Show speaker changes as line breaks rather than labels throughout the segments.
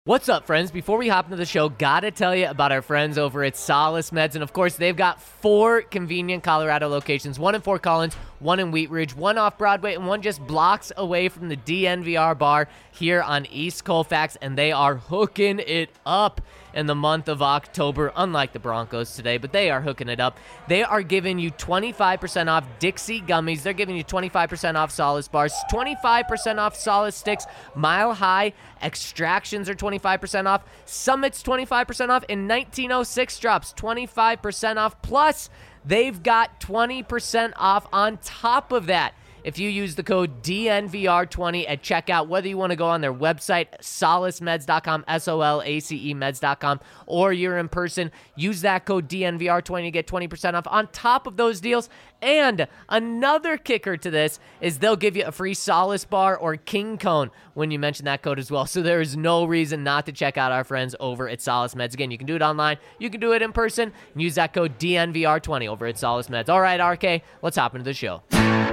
What's up, friends? Before we hop into the show, gotta tell you about our friends over at Solace Meds. And of course, they've got 4 convenient Colorado locations, 1 in Fort Collins, 1 in Wheat Ridge, 1 off Broadway, and 1 just blocks away from the DNVR bar here on East Colfax. And they are hooking it up in the month of October, unlike the Broncos today, but they are hooking it up. They are giving you 25% off Dixie gummies. They're giving you 25% off Solace bars, 25% off Solace sticks, Mile High extractions are 25% off, Summits 25% off, and 1906 drops 25% off. Plus, they've got 20% off on top of that if you use the code DNVR20 at checkout, whether you want to go on their website, solacemeds.com, SOLACE meds.com, or you're in person, use that code DNVR20 to get 20% off on top of those deals. And another kicker to this is they'll give you a free Solace bar or King Cone when you mention that code as well. So there is no reason not to check out our friends over at Solace Meds. Again, you can do it online, you can do it in person, and use that code DNVR20 over at Solace Meds. All right, RK, let's hop into the show.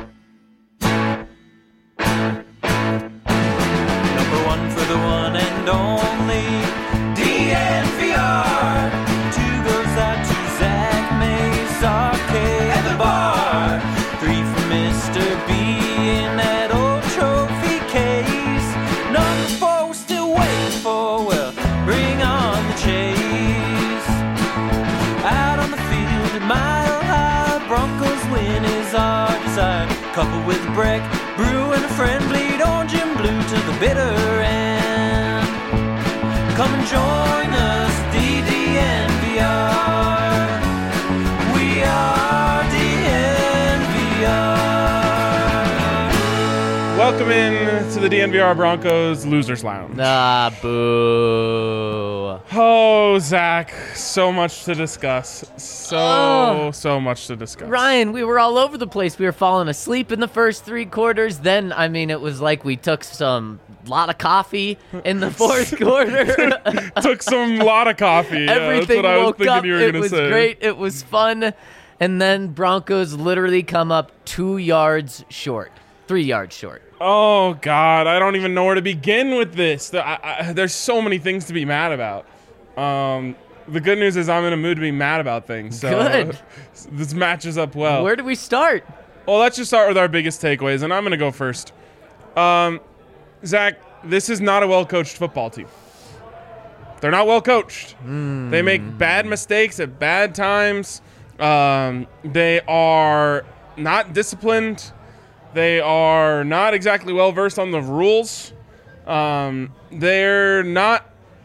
For the one and only DNVR. 2 goes out to Zach Mays, RK, and the bar. 3 for Mr. B in that old trophy case. Number 4 we're still waiting for, well, bring on the chase. Out on the field at Mile High, Broncos win is our desire. Coupled with a break, brew and a friend, bleed orange and blue to the bitter end. Come and join us, DNVR. We are DNVR.
Welcome in to the DNVR Broncos Losers Lounge.
Ah, boo.
Oh, Zach, so much to discuss. So much to discuss.
Ryan, we were all over the place. We were falling asleep in the first 3 quarters. Then, it was like we took some lot of coffee in the fourth quarter.
Took some lot of coffee.
Everything
that's what
woke
I was
up.
thinking you were
It
going to
was
say.
great. It was fun. And then Broncos literally come up 2 yards short. 3 yards short.
Oh, God. I don't even know where to begin with this. There's so many things to be mad about. The good news is I'm in a mood to be mad about things. So
Good.
This matches up well.
Where do we start?
Well, let's just start with our biggest takeaways, and I'm going to go first. Zach, this is not a well-coached football team. They're not well-coached. They make bad mistakes at bad times. They are not disciplined. They are not exactly well-versed on the rules. They're not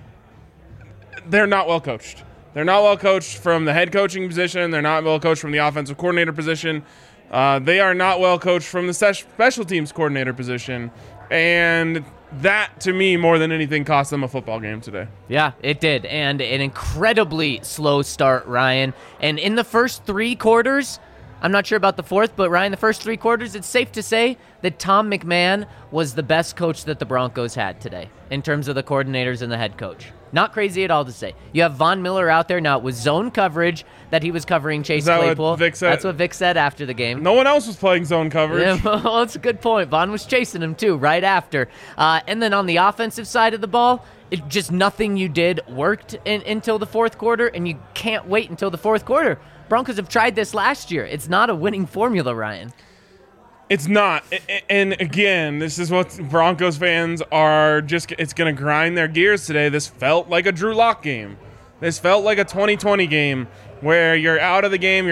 well-coached. They're not well-coached from the head coaching position. They're not well-coached from the offensive coordinator position. They are not well-coached from the special teams coordinator position. And that, to me, more than anything, cost them a football game today.
Yeah, it did. And an incredibly slow start, Ryan. And in the first 3 quarters, I'm not sure about the fourth, but Ryan, the first 3 quarters, it's safe to say that Tom McMahon was the best coach that the Broncos had today in terms of the coordinators and the head coach. Not crazy at all to say. You have Von Miller out there now with zone coverage that he was covering Chase Claypool.
What Vic said?
That's what Vic said after the game.
No one else was playing zone coverage.
Yeah, well, that's a good point. Von was chasing him, too, right after. And then on the offensive side of the ball, just nothing you did worked until the fourth quarter, and you can't wait until the fourth quarter. Broncos have tried this last year. It's not a winning formula, Ryan.
It's not. And again, this is what Broncos fans are just, it's going to grind their gears today. This felt like a Drew Lock game. This felt like a 2020 game where you're out of the game,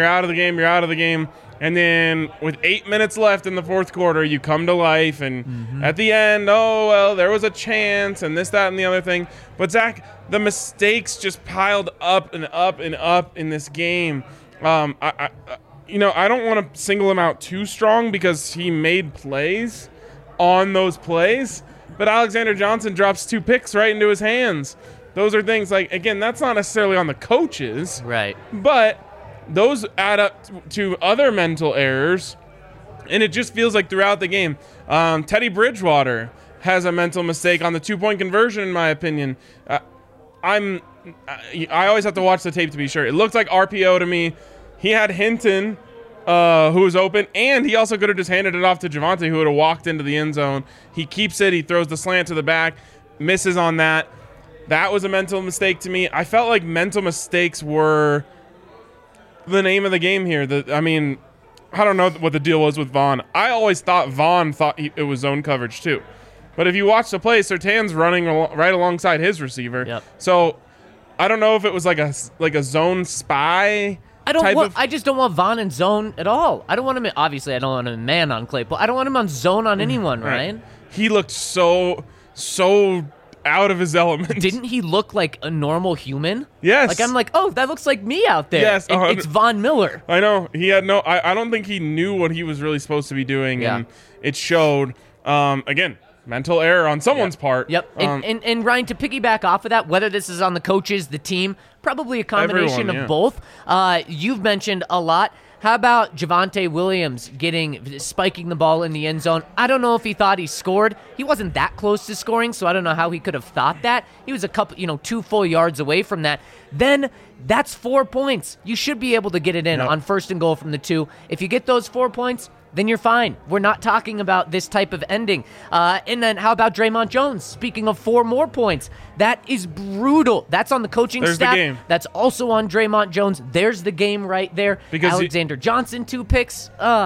and then with 8 minutes left in the fourth quarter, you come to life, and at the end, oh, well, there was a chance, and this, that, and the other thing. But, Zach, the mistakes just piled up and up and up in this game. I don't want to single him out too strong because he made plays on those plays, but Alexander Johnson drops 2 picks right into his hands. Those are things like, again, that's not necessarily on the coaches.
Right.
But those add up to other mental errors, and it just feels like throughout the game. Teddy Bridgewater has a mental mistake on the 2-point conversion, in my opinion. I always have to watch the tape to be sure. It looked like RPO to me. He had Hinton, who was open, and he also could have just handed it off to Javonte, who would have walked into the end zone. He keeps it. He throws the slant to the back, misses on that. That was a mental mistake to me. I felt like mental mistakes were the name of the game here. I don't know what the deal was with Vaughn. I always thought Vaughn thought it was zone coverage too. But if you watch the play, Surtain's running right alongside his receiver.
Yep.
So I don't know if it was like a zone spy.
I just don't want Vaughn in zone at all. I don't want him in, obviously I don't want him in man on Claypool. I don't want him on zone on anyone, Ryan.
Right. He looked so out of his element.
Didn't he look like a normal human?
Yes.
Like I'm like, oh, that looks like me out there.
Yes,
It's Von Miller.
I know. He had I don't think he knew what he was really supposed to be doing, and it showed. Again, mental error on someone's part.
Yep. And Ryan, to piggyback off of that, whether this is on the coaches, the team, probably a combination of both. You've mentioned a lot. How about Javonte Williams spiking the ball in the end zone? I don't know if he thought he scored. He wasn't that close to scoring, so I don't know how he could have thought that. He was 2 full yards away from that. Then that's 4 points. You should be able to get it in on 1st and goal from the 2. If you get those 4 points, then you're fine. We're not talking about this type of ending. And then how about Draymond Jones? Speaking of 4 more points, that is brutal. That's on the coaching
staff.
staff.
The game.
That's also on Draymond Jones. There's the game right there. Because Alexander Johnson, 2 picks.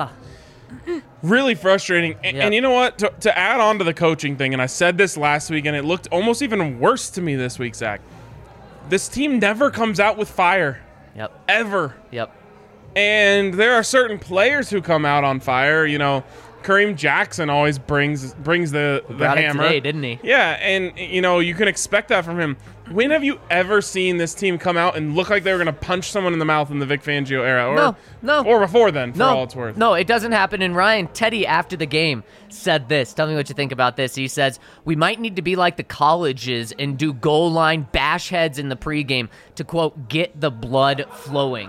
Really frustrating. And you know what? To add on to the coaching thing, and I said this last week, and it looked almost even worse to me this week, Zach. This team never comes out with fire.
Yep.
Ever.
Yep.
And there are certain players who come out on fire. Kareem Jackson always brings the hammer.
Today, didn't he?
Yeah, and you can expect that from him. When have you ever seen this team come out and look like they were going to punch someone in the mouth in the Vic Fangio era? Or before then, for all it's worth.
No, it doesn't happen. And Ryan, Teddy, after the game, said this. Tell me what you think about this. He says, we might need to be like the colleges and do goal line bash heads in the pregame to, quote, get the blood flowing.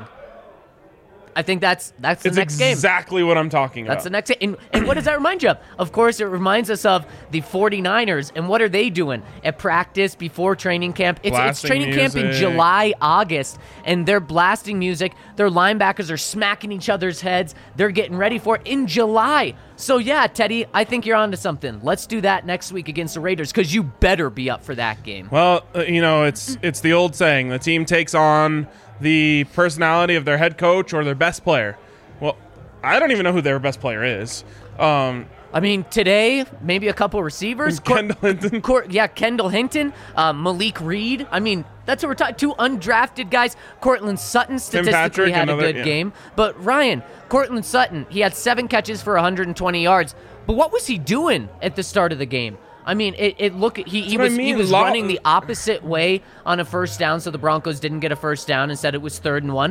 I think that's the next game.
It's exactly what I'm talking about.
That's the next game. And what does that remind you of? Of course, it reminds us of the 49ers. And what are they doing at practice before training camp? It's training camp in July, August, and they're blasting music. Their linebackers are smacking each other's heads. They're getting ready for it in July. So, yeah, Teddy, I think you're onto something. Let's do that next week against the Raiders because you better be up for that game.
Well, it's the old saying. The team takes on the personality of their head coach or their best player. Well, I don't even know who their best player is.
Today, maybe a couple receivers.
Kendall Hinton.
Kendall Hinton, Malik Reed. That's what we're talking. 2 undrafted guys. Cortland Sutton statistically had a good game. But Ryan, Cortland Sutton, he had 7 catches for 120 yards. But what was he doing at the start of the game? He was running the opposite way on a first down, so the Broncos didn't get a first down. Instead, it was 3rd and 1.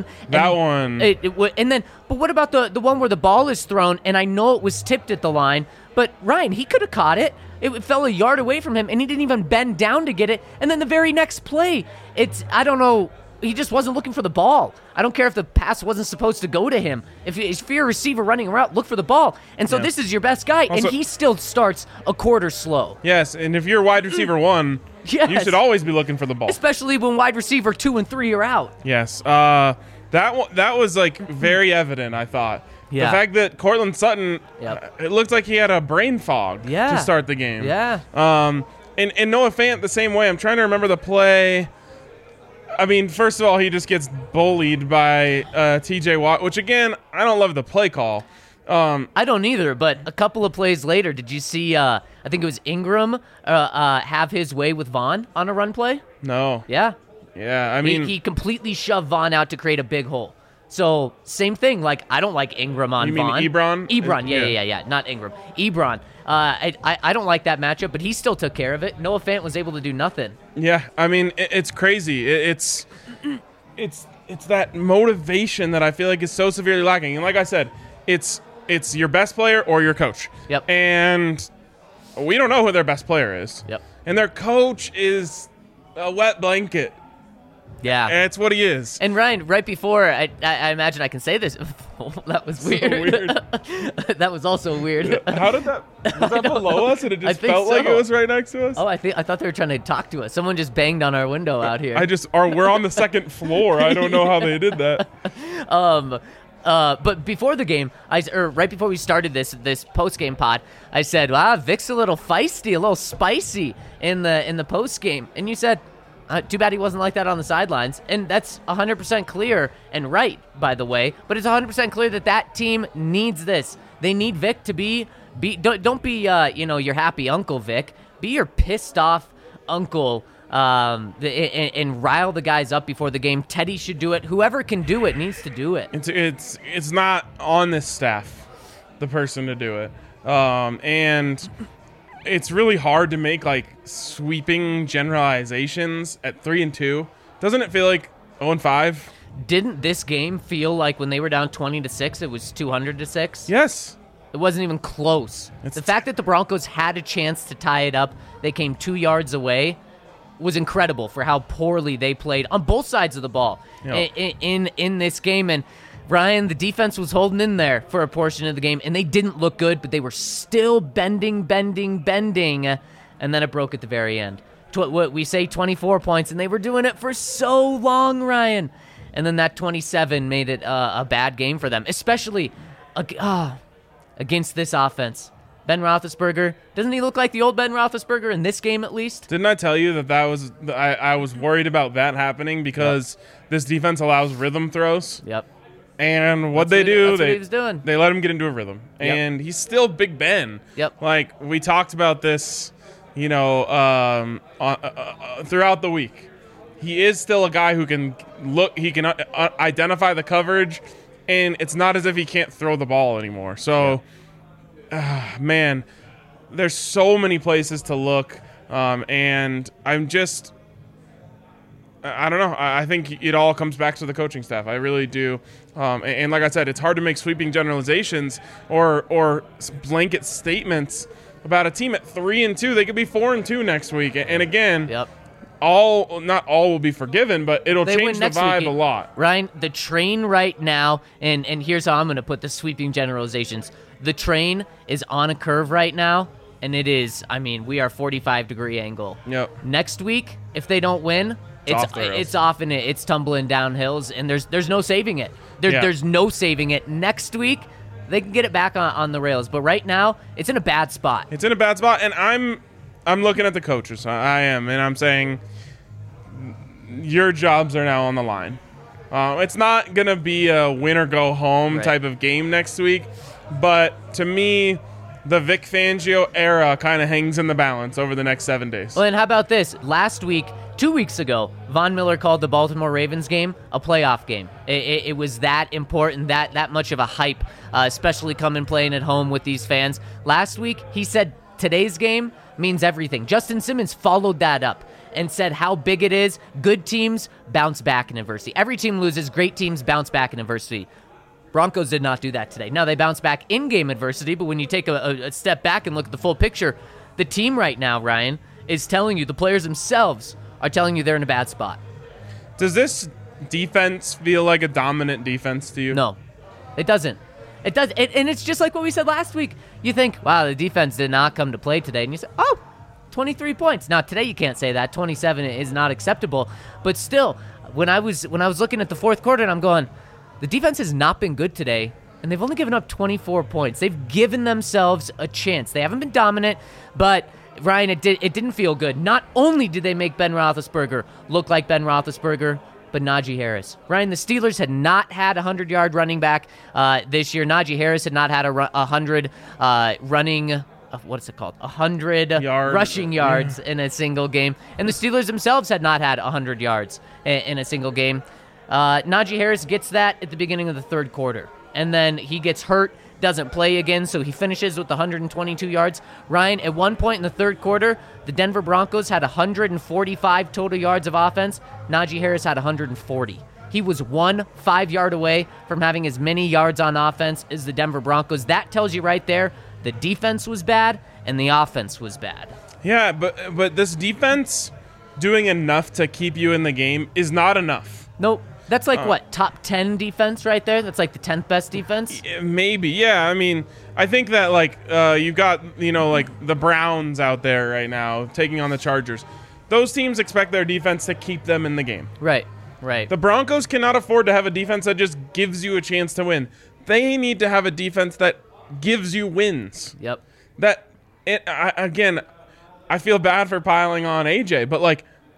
But what about the one where the ball is thrown? And I know it was tipped at the line, but Ryan, he could have caught it. It fell a yard away from him, and he didn't even bend down to get it. And then the very next play, I don't know. He just wasn't looking for the ball. I don't care if the pass wasn't supposed to go to him. If you're a receiver running around, look for the ball. And so this is your best guy, also, and he still starts a quarter slow.
Yes, and if you're wide receiver 1, you should always be looking for the ball.
Especially when wide receiver 2 and 3 are out.
Yes, that was very evident, I thought. Yeah. The fact that Cortland Sutton, it looked like he had a brain fog to start the game.
Yeah.
And Noah Fant the same way. I'm trying to remember the play. First of all, he just gets bullied by T.J. Watt, which, again, I don't love the play call.
I don't either, but a couple of plays later, did you see, I think it was Ingram, have his way with Vaughn on a run play?
No.
Yeah.
Yeah,
He completely shoved Vaughn out to create a big hole. So, same thing. I don't like Ingram on Vaughn.
You mean Ebron?
Ebron, yeah. Not Ingram. Ebron. I don't like that matchup, but he still took care of it. Noah Fant was able to do nothing.
Yeah, it's crazy. It's that motivation that I feel like is so severely lacking. And like I said, it's your best player or your coach.
Yep.
And we don't know who their best player is.
Yep.
And their coach is a wet blanket.
Yeah.
And it's what he is.
And Ryan, right before, I imagine I can say this. That was weird.
So weird.
That was also weird.
How did that? Was that below us and it just felt like it was right next to us?
Oh, I thought they were trying to talk to us. Someone just banged on our window out here.
We're on the 2nd floor. I don't know how they did that.
But before the game, right before we started this post-game pod, I said, "Wow, Vic's a little feisty, a little spicy in the post-game." And you said, Too bad he wasn't like that on the sidelines. And that's 100% clear and right, by the way. But it's 100% clear that team needs this. They need Vic to be don't be your happy uncle Vic. Be your pissed off uncle and rile the guys up before the game. Teddy should do it. Whoever can do it needs to do it.
It's not on this staff, the person to do it. And it's really hard to make like sweeping generalizations at 3-2. Doesn't it feel like 0-5?
Didn't this game feel like when they were down 20-6, it was 200-6?
Yes.
It wasn't even close. The fact that the Broncos had a chance to tie it up, they came 2 yards away, was incredible for how poorly they played on both sides of the ball in this game. And Ryan, the defense was holding in there for a portion of the game, and they didn't look good, but they were still bending, and then it broke at the very end. What we say 24 points, and they were doing it for so long, Ryan. And then that 27 made it a bad game for them, especially against this offense. Ben Roethlisberger, doesn't he look like the old Ben Roethlisberger in this game at least?
Didn't I tell you that was I was worried about that happening because this defense allows rhythm throws?
Yep.
And what
That's
what
he was doing.
They let him get into a rhythm.
Yep.
And he's still Big Ben.
Yep.
Like, we talked about this, throughout the week. He is still a guy who can he can identify the coverage, and it's not as if he can't throw the ball anymore. So, man, there's so many places to look, and I'm just – I don't know. I think it all comes back to the coaching staff. I really do. And like I said, it's hard to make sweeping generalizations or blanket statements about a team at 3-2. They could be 4-2 next week. And again, not all will be forgiven, but it'll change the vibe a lot.
Ryan, the train right now, and here's how I'm going to put the sweeping generalizations. The train is on a curve right now, and it is, we are 45-degree angle.
Yep.
Next week, if they don't win, it's off and it's tumbling down hills, and there's no saving it. There's no saving it. Next week, they can get it back on the rails, but right now, it's in a bad spot.
It's in a bad spot, and I'm looking at the coaches. I am, and I'm saying your jobs are now on the line. It's not going to be a win or go home type of game next week, but to me, the Vic Fangio era kind of hangs in the balance over the next 7 days.
Well, and how about this? Last week, 2 weeks ago, Von Miller called the Baltimore Ravens game a playoff game. It was that important, that much of a hype, especially playing at home with these fans. Last week, he said today's game means everything. Justin Simmons followed that up and said how big it is. Good teams bounce back in adversity. Every team loses. Great teams bounce back in adversity. Broncos did not do that today. Now, they bounce back in-game adversity, but when you take a step back and look at the full picture, the team right now, Ryan, is telling you, the players themselves are telling you they're in a bad spot.
Does this defense feel like a dominant defense to you?
No, it doesn't. It does, and it's just like what we said last week. You think, wow, the defense did not come to play today, and you say, 23 points. Now, today you can't say that. 27 is not acceptable, but still, when I was looking at the fourth quarter, and I'm going, the defense has not been good today, and they've only given up 24 points. They've given themselves a chance. They haven't been dominant, but Ryan, it didn't feel good. Not only did they make Ben Roethlisberger look like Ben Roethlisberger, but Najee Harris. Ryan, the Steelers had not had a 100-yard running back this year. Najee Harris had not had a 100 running. What's it called? 100 rushing yards in a single game, and the Steelers themselves had not had 100 yards in a single game. Najee Harris gets that at the beginning of the third quarter, and then he gets hurt, doesn't play again, so he finishes with 122 yards. Ryan, at one point in the third quarter, the Denver Broncos had 145 total yards of offense. Najee Harris had 140. He was 1 5-yard away from having as many yards on offense as the Denver Broncos. That tells you right there the defense was bad and the offense was bad.
Yeah, but this defense doing enough to keep you in the game is not enough.
Nope. That's like what, top 10 defense right there? That's like the 10th best defense?
Maybe, yeah. I think that you've got the Browns out there right now taking on the Chargers. Those teams expect their defense to keep them in the game.
Right.
The Broncos cannot afford to have a defense that just gives you a chance to win. They need to have a defense that gives you wins.
Yep. I
I feel bad for piling on AJ, but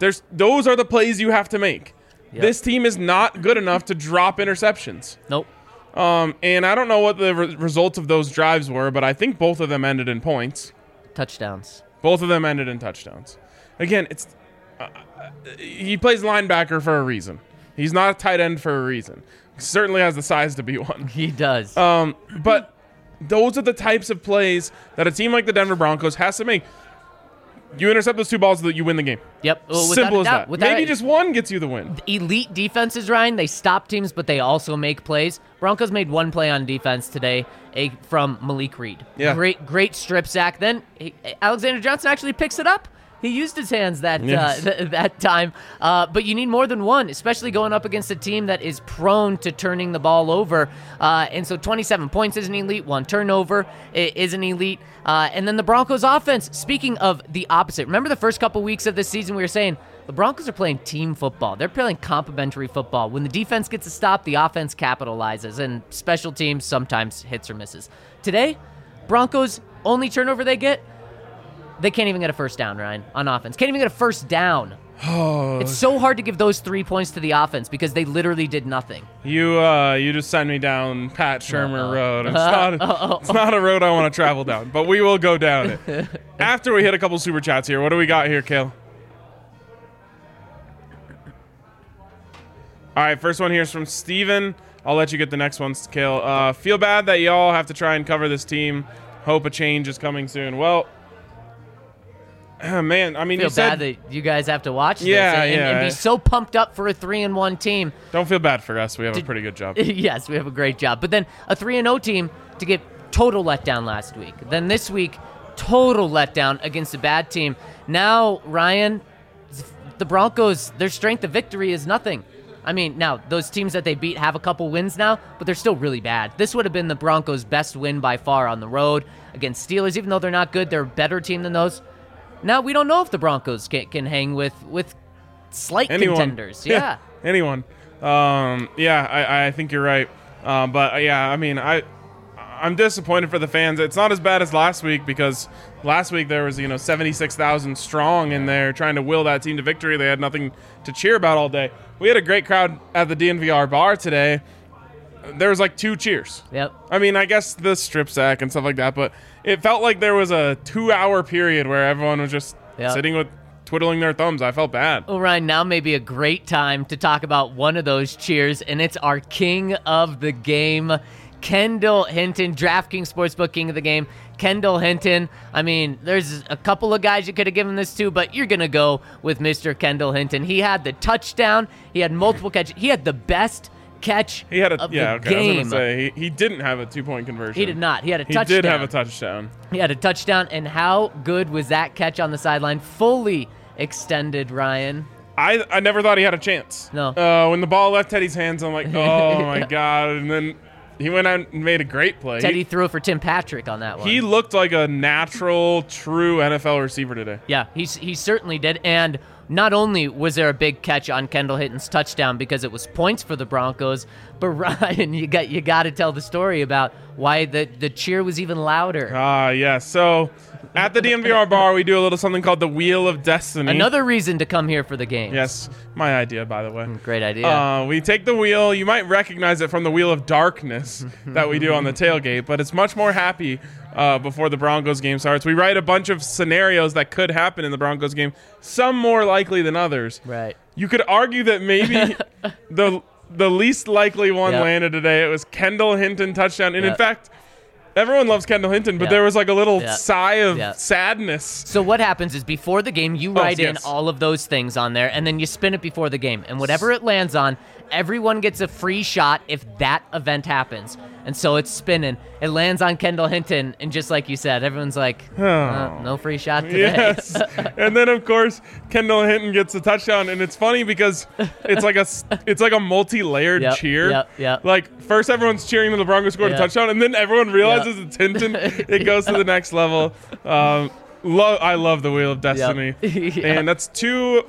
Those are the plays you have to make.
Yep.
This team is not good enough to drop interceptions.
Nope.
And I don't know what the results of those drives were, but I think both of them ended in points.
Touchdowns.
Both of them ended in touchdowns. Again, he plays linebacker for a reason. He's not a tight end for a reason. He certainly has the size to be one.
He does.
But those are the types of plays that a team like the Denver Broncos has to make. You intercept those 2 balls so that you win the game.
Yep. Well,
Simple as that. Maybe just one gets you the win.
Elite defenses, Ryan, they stop teams, but they also make plays. Broncos made one play on defense today from Malik Reed.
Yeah.
Great strip sack. Then Alexander Johnson actually picks it up. He used his hands that time. But you need more than one, especially going up against a team that is prone to turning the ball over. And so 27 points is an elite. 1 turnover is an elite. And then the Broncos offense, speaking of the opposite. Remember the first couple weeks of this season we were saying the Broncos are playing team football. They're playing complementary football. When the defense gets a stop, the offense capitalizes. And special teams sometimes hits or misses. Today, Broncos, only turnover they get, they can't even get a first down, Ryan, on offense. Can't even get a first down.
Oh.
It's so hard to give those 3 points to the offense because they literally did nothing.
You just sent me down Pat Shermer Road. It's not a road I want to travel down, but we will go down it. After we hit a couple super chats here, what do we got here, Kale? All right, first one here is from Steven. I'll let you get the next ones, Kale. Feel bad that y'all have to try and cover this team. Hope a change is coming soon. Well, man, I mean,
Feel
you said
bad that you guys have to watch this
Yeah,
and be so pumped up for a 3-1 team.
Don't feel bad for us. We have a pretty good job.
Yes, we have a great job. But then a 3-0 team to get total letdown last week. Then this week, total letdown against a bad team. Now, Ryan, the Broncos, their strength of victory is nothing. I mean, now, those teams that they beat have a couple wins now, but they're still really bad. This would have been the Broncos' best win by far on the road against Steelers. Even though they're not good, they're a better team than those. Now, we don't know if the Broncos can hang with slight contenders. Yeah.
Anyone. I think you're right. But, yeah, I mean, I'm disappointed for the fans. It's not as bad as last week because last week there was, 76,000 strong in there trying to will that team to victory. They had nothing to cheer about all day. We had a great crowd at the DNVR bar today. There was like 2 cheers.
Yep.
I mean, I guess the strip sack and stuff like that, but it felt like there was a 2-hour period where everyone was just sitting with twiddling their thumbs. I felt bad.
Well, Ryan, now may be a great time to talk about one of those cheers, and it's our king of the game, Kendall Hinton, DraftKings Sportsbook king of the game. Kendall Hinton, I mean, there's a couple of guys you could have given this to, but you're going to go with Mr. Kendall Hinton. He had the touchdown. He had multiple catches. He had the best catch of the game.
I was going to say, he didn't have a 2-point conversion.
He did not. He had a touchdown.
He did have a touchdown.
He had a touchdown, and how good was that catch on the sideline? Fully extended, Ryan.
I never thought he had a chance.
No.
When the ball left Teddy's hands, I'm like, oh, my God. And then he went out and made a great play.
Teddy threw it for Tim Patrick on that one.
He looked like a natural, true NFL receiver today.
Yeah, he certainly did. And not only was there a big catch on Kendall Hinton's touchdown because it was points for the Broncos, but Ryan, you got to tell the story about why the cheer was even louder.
Yeah. So at the DNVR bar, we do a little something called the Wheel of Destiny.
Another reason to come here for the game.
Yes, my idea, by the way.
Great idea.
We take the wheel. You might recognize it from the Wheel of Darkness that we do on the tailgate, but it's much more happy before the Broncos game starts. We write a bunch of scenarios that could happen in the Broncos game, some more likely than others.
Right.
You could argue that maybe the least likely one landed today. It was Kendall Hinton touchdown. And in fact, everyone loves Kendall Hinton, but there was like a little sigh of sadness.
So what happens is before the game, you write in all of those things on there, and then you spin it before the game. And whatever it lands on, everyone gets a free shot if that event happens. And so it's spinning. It lands on Kendall Hinton, and just like you said, everyone's like, no free shot today.
Yes. And then, of course, Kendall Hinton gets a touchdown, and it's funny because it's like a multi-layered cheer.
Yep.
Like, first everyone's cheering when the Broncos scored a touchdown, and then everyone realizes it's Hinton. It goes to the next level. I love the Wheel of Destiny. And that's two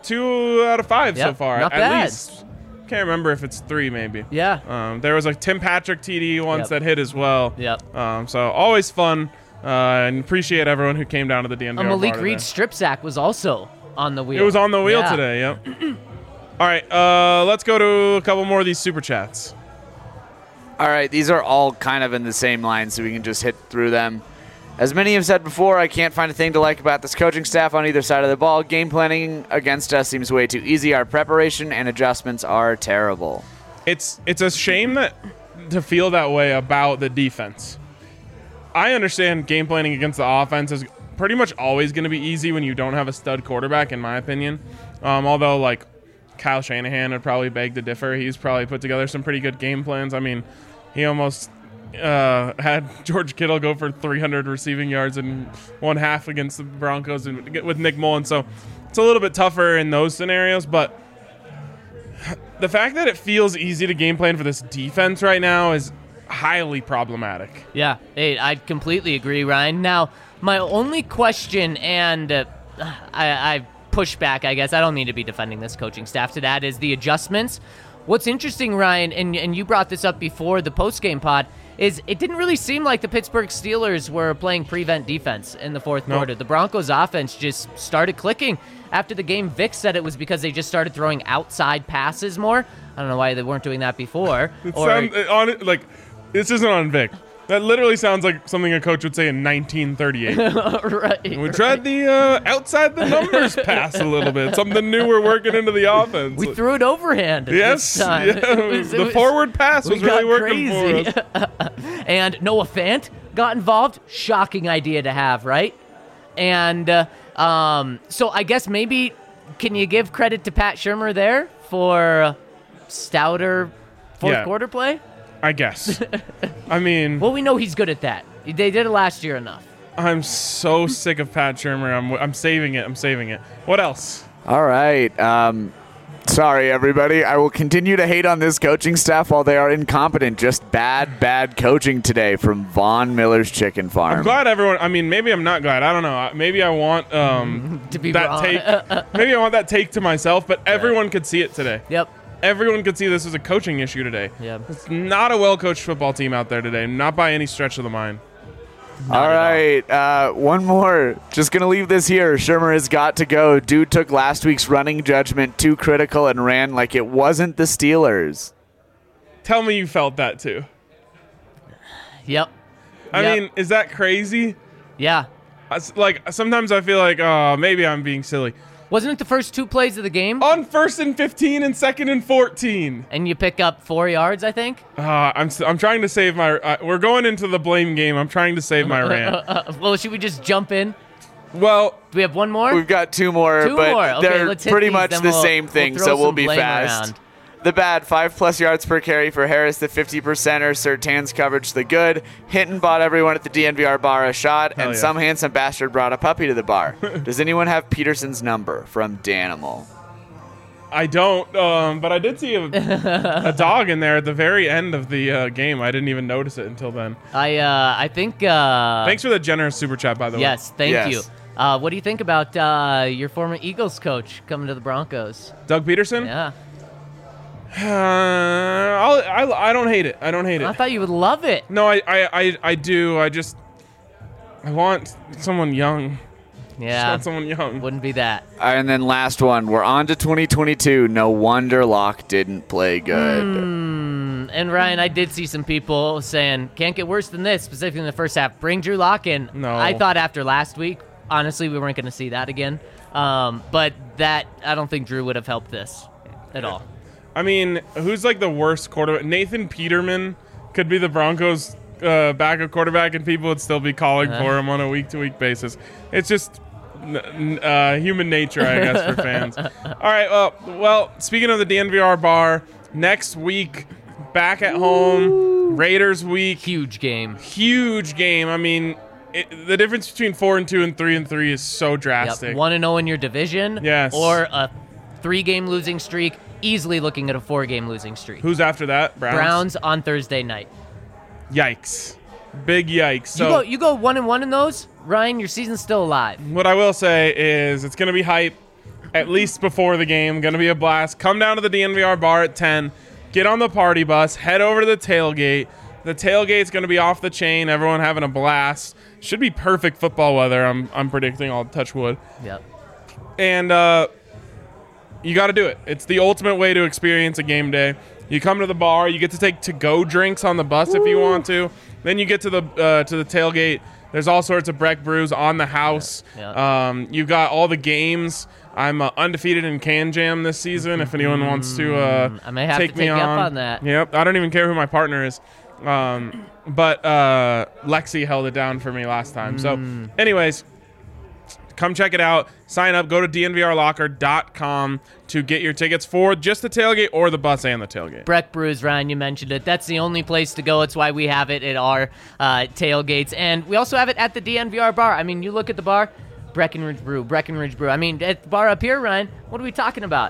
out of 5 so far,
not
at
bad.
least. Can't remember if it's 3 maybe.
Yeah.
There was a Tim Patrick TD once that hit as well.
Yep.
So always fun. And appreciate everyone who came down to the DNVR
A Malik
bar
Reed strip sack was also on the wheel.
It was on the wheel
Yeah.
today, yep. All right, let's go to a couple more of these super chats.
All right, these are all kind of in the same line, so we can just hit through them. As many have said before, I can't find a thing to like about this coaching staff on either side of the ball. Game planning against us seems way too easy. Our preparation and adjustments are terrible.
It's a shame to feel that way about the defense. I understand game planning against the offense is pretty much always going to be easy when you don't have a stud quarterback, in my opinion. Although, like, Kyle Shanahan would probably beg to differ. He's probably put together some pretty good game plans. I mean, he almost had George Kittle go for 300 receiving yards in one half against the Broncos and with Nick Mullins. So it's a little bit tougher in those scenarios. But the fact that it feels easy to game plan for this defense right now is highly problematic.
Yeah, hey, I completely agree, Ryan. Now, my only question, and I push back, I guess. I don't need to be defending this coaching staff to that, is the adjustments. What's interesting, Ryan, and you brought this up before the post-game pod, is it didn't really seem like the Pittsburgh Steelers were playing prevent defense in the fourth quarter. The Broncos offense just started clicking. After the game, Vic said it was because they just started throwing outside passes more. I don't know why they weren't doing that before.
This isn't on Vic. That literally sounds like something a coach would say in 1938.
Right.
We tried the outside the numbers pass a little bit. Something new we're working into the offense.
We threw it overhand
Yes.
this time.
Yeah, the forward pass was really working
crazy.
for us.
And Noah Fant got involved. Shocking idea to have, right? And so I guess maybe can you give credit to Pat Shurmur there for stouter fourth quarter play?
I guess. I mean,
Well, we know he's good at that. They did it last year enough.
I'm so sick of Pat Shurmur. I'm saving it. I'm saving it. What else?
All right. Sorry, everybody. I will continue to hate on this coaching staff while they are incompetent. Just bad coaching today from Von Miller's Chicken Farm.
I'm glad everyone. I mean, maybe I'm not glad. I don't know. Maybe I want
To be
that
wrong.
take. Maybe I want that take to myself. But everyone could see it today.
Yep.
Everyone could see this as a coaching issue today.
Yep.
It's not a well-coached football team out there today. Not by any stretch of the mind.
All right, one more. Just going to leave this here. Shurmur has got to go. Dude took last week's running judgment too critical and ran like it wasn't the Steelers.
Tell me you felt that too.
Yep.
I
Yep.
mean, is that crazy?
Yeah.
Like, sometimes I feel like, oh, maybe I'm being silly.
Wasn't it the first two plays of the game?
On 1st and 15 and 2nd and 14.
And you pick up 4 yards, I think?
I'm trying to save my. We're going into the blame game. I'm trying to save my rant.
Well, should we just jump in?
Well,
Do we have one more?
We've got two more,
Two
but
more. Okay,
they're
let's hit
pretty
these,
much
then
the
we'll-
same thing,
we'll throw
so we'll
some
be
blame
fast.
around.
The bad, 5+ yards per carry for Harris, the 50%er. Sertan's coverage, the good. Hinton bought everyone at the DNVR bar a shot, and
yeah.
some handsome bastard brought a puppy to the bar. Does anyone have Peterson's number from Danimal?
I don't, but I did see a dog in there at the very end of the game. I didn't even notice it until then.
I think.
Thanks for the generous super chat, by the way.
Yes, thank
Yes.
you. What do you think about your former Eagles coach coming to the Broncos?
Doug Peterson?
Yeah.
I don't hate it. I don't hate
I
it.
thought you would love it.
No, I do. I want someone young. I
Yeah.
want someone young.
Wouldn't be that.
And then last one. We're on to 2022. No wonder Locke didn't play good.
And Ryan, I did see some people saying, can't get worse than this, specifically in the first half. Bring Drew Lock in.
No.
I thought after last week, honestly, we weren't going to see that again. But I don't think Drew would have helped this at all.
I mean, who's like the worst quarterback? Nathan Peterman could be the Broncos' backup quarterback, and people would still be calling for him on a week-to-week basis. It's just human nature, I guess, for fans. All right, well, speaking of the DNVR bar, next week, back at home, Raiders week.
Huge game.
Huge game. I mean, the difference between 4-2 and 3-3 is so drastic.
Yep. 1-0 in your division.
Yes.
Or a 3-game losing streak. Easily looking at a 4-game losing streak.
Who's after that?
Browns on Thursday night.
Yikes. Big yikes. So
You go 1-1 in those, Ryan, your season's still alive.
what I will say is it's going to be hype, at least before the game. Going to be a blast. Come down to the DNVR bar at 10. Get on the party bus. Head over to the tailgate. The tailgate's going to be off the chain. Everyone having a blast. Should be perfect football weather. I'm predicting. I'll touch wood.
Yep.
And you got to do it. It's the ultimate way to experience a game day. You come to the bar. You get to take to-go drinks on the bus if you want to. Then you get to the tailgate. There's all sorts of Breck brews on the house.
Yeah.
You've got all the games. I'm undefeated in Can Jam this season. If anyone wants to
I may have
take
to
me
take you
on.
up on that.
Yep. I don't even care who my partner is. But Lexi held it down for me last time. So, anyways, come check it out. Sign up. Go to dnvrlocker.com to get your tickets for just the tailgate or the bus and the tailgate.
Breck Brews, Ryan, you mentioned it. That's the only place to go. It's why we have it at our tailgates. And we also have it at the DNVR bar. I mean, you look at the bar, Breckenridge Brew. I mean, at the bar up here, Ryan, what are we talking about?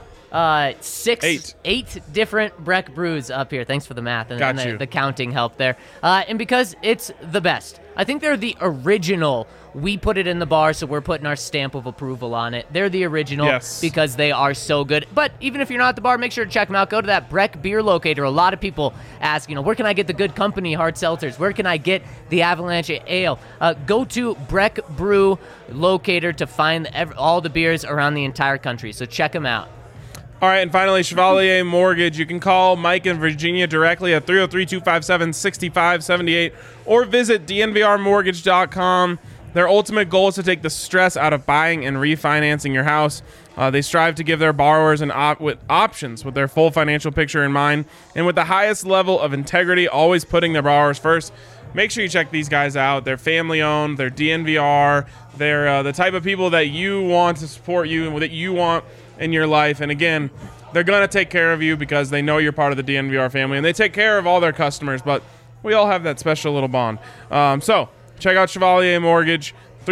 Eight different Breck Brews up here. Thanks for the math and the counting help there. And because it's the best. I think they're the original. We put it in the bar, so we're putting our stamp of approval on it. They're the original because they are so good. But even if you're not at the bar, make sure to check them out. Go to that Breck Beer Locator. A lot of people ask, where can I get the Good Company hard seltzers? Where can I get the Avalanche Ale? Go to Breck Brew Locator to find all the beers around the entire country. So check them out.
All right, and finally, Chevalier Mortgage. You can call Mike in Virginia directly at 303-257-6578 or visit dnvrmortgage.com. Their ultimate goal is to take the stress out of buying and refinancing your house. They strive to give their borrowers with options with their full financial picture in mind and with the highest level of integrity, always putting their borrowers first. Make sure you check these guys out. They're family-owned. They're DNVR. They're the type of people that you want to support you and that you want in your life. And again, they're going to take care of you because they know you're part of the DNVR family, and they take care of all their customers, but we all have that special little bond. So check out Chevalier Mortgage,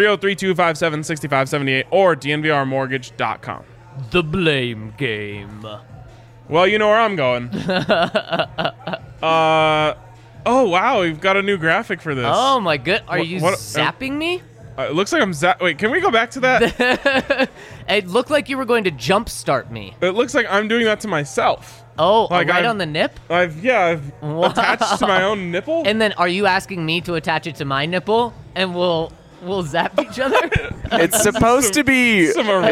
303-257-6578 or dnvrmortgage.com.
The blame game.
Well, you know where I'm going. Oh, wow, we've got a new graphic for this.
Oh, my good. Are you zapping me?
It looks like I'm wait, can we go back to that?
It looked like you were going to jumpstart me.
It looks like I'm doing that to myself.
Oh, like right on the nip?
I've attached to my own nipple.
And then are you asking me to attach it to my nipple and we'll zap each other?
It's supposed to be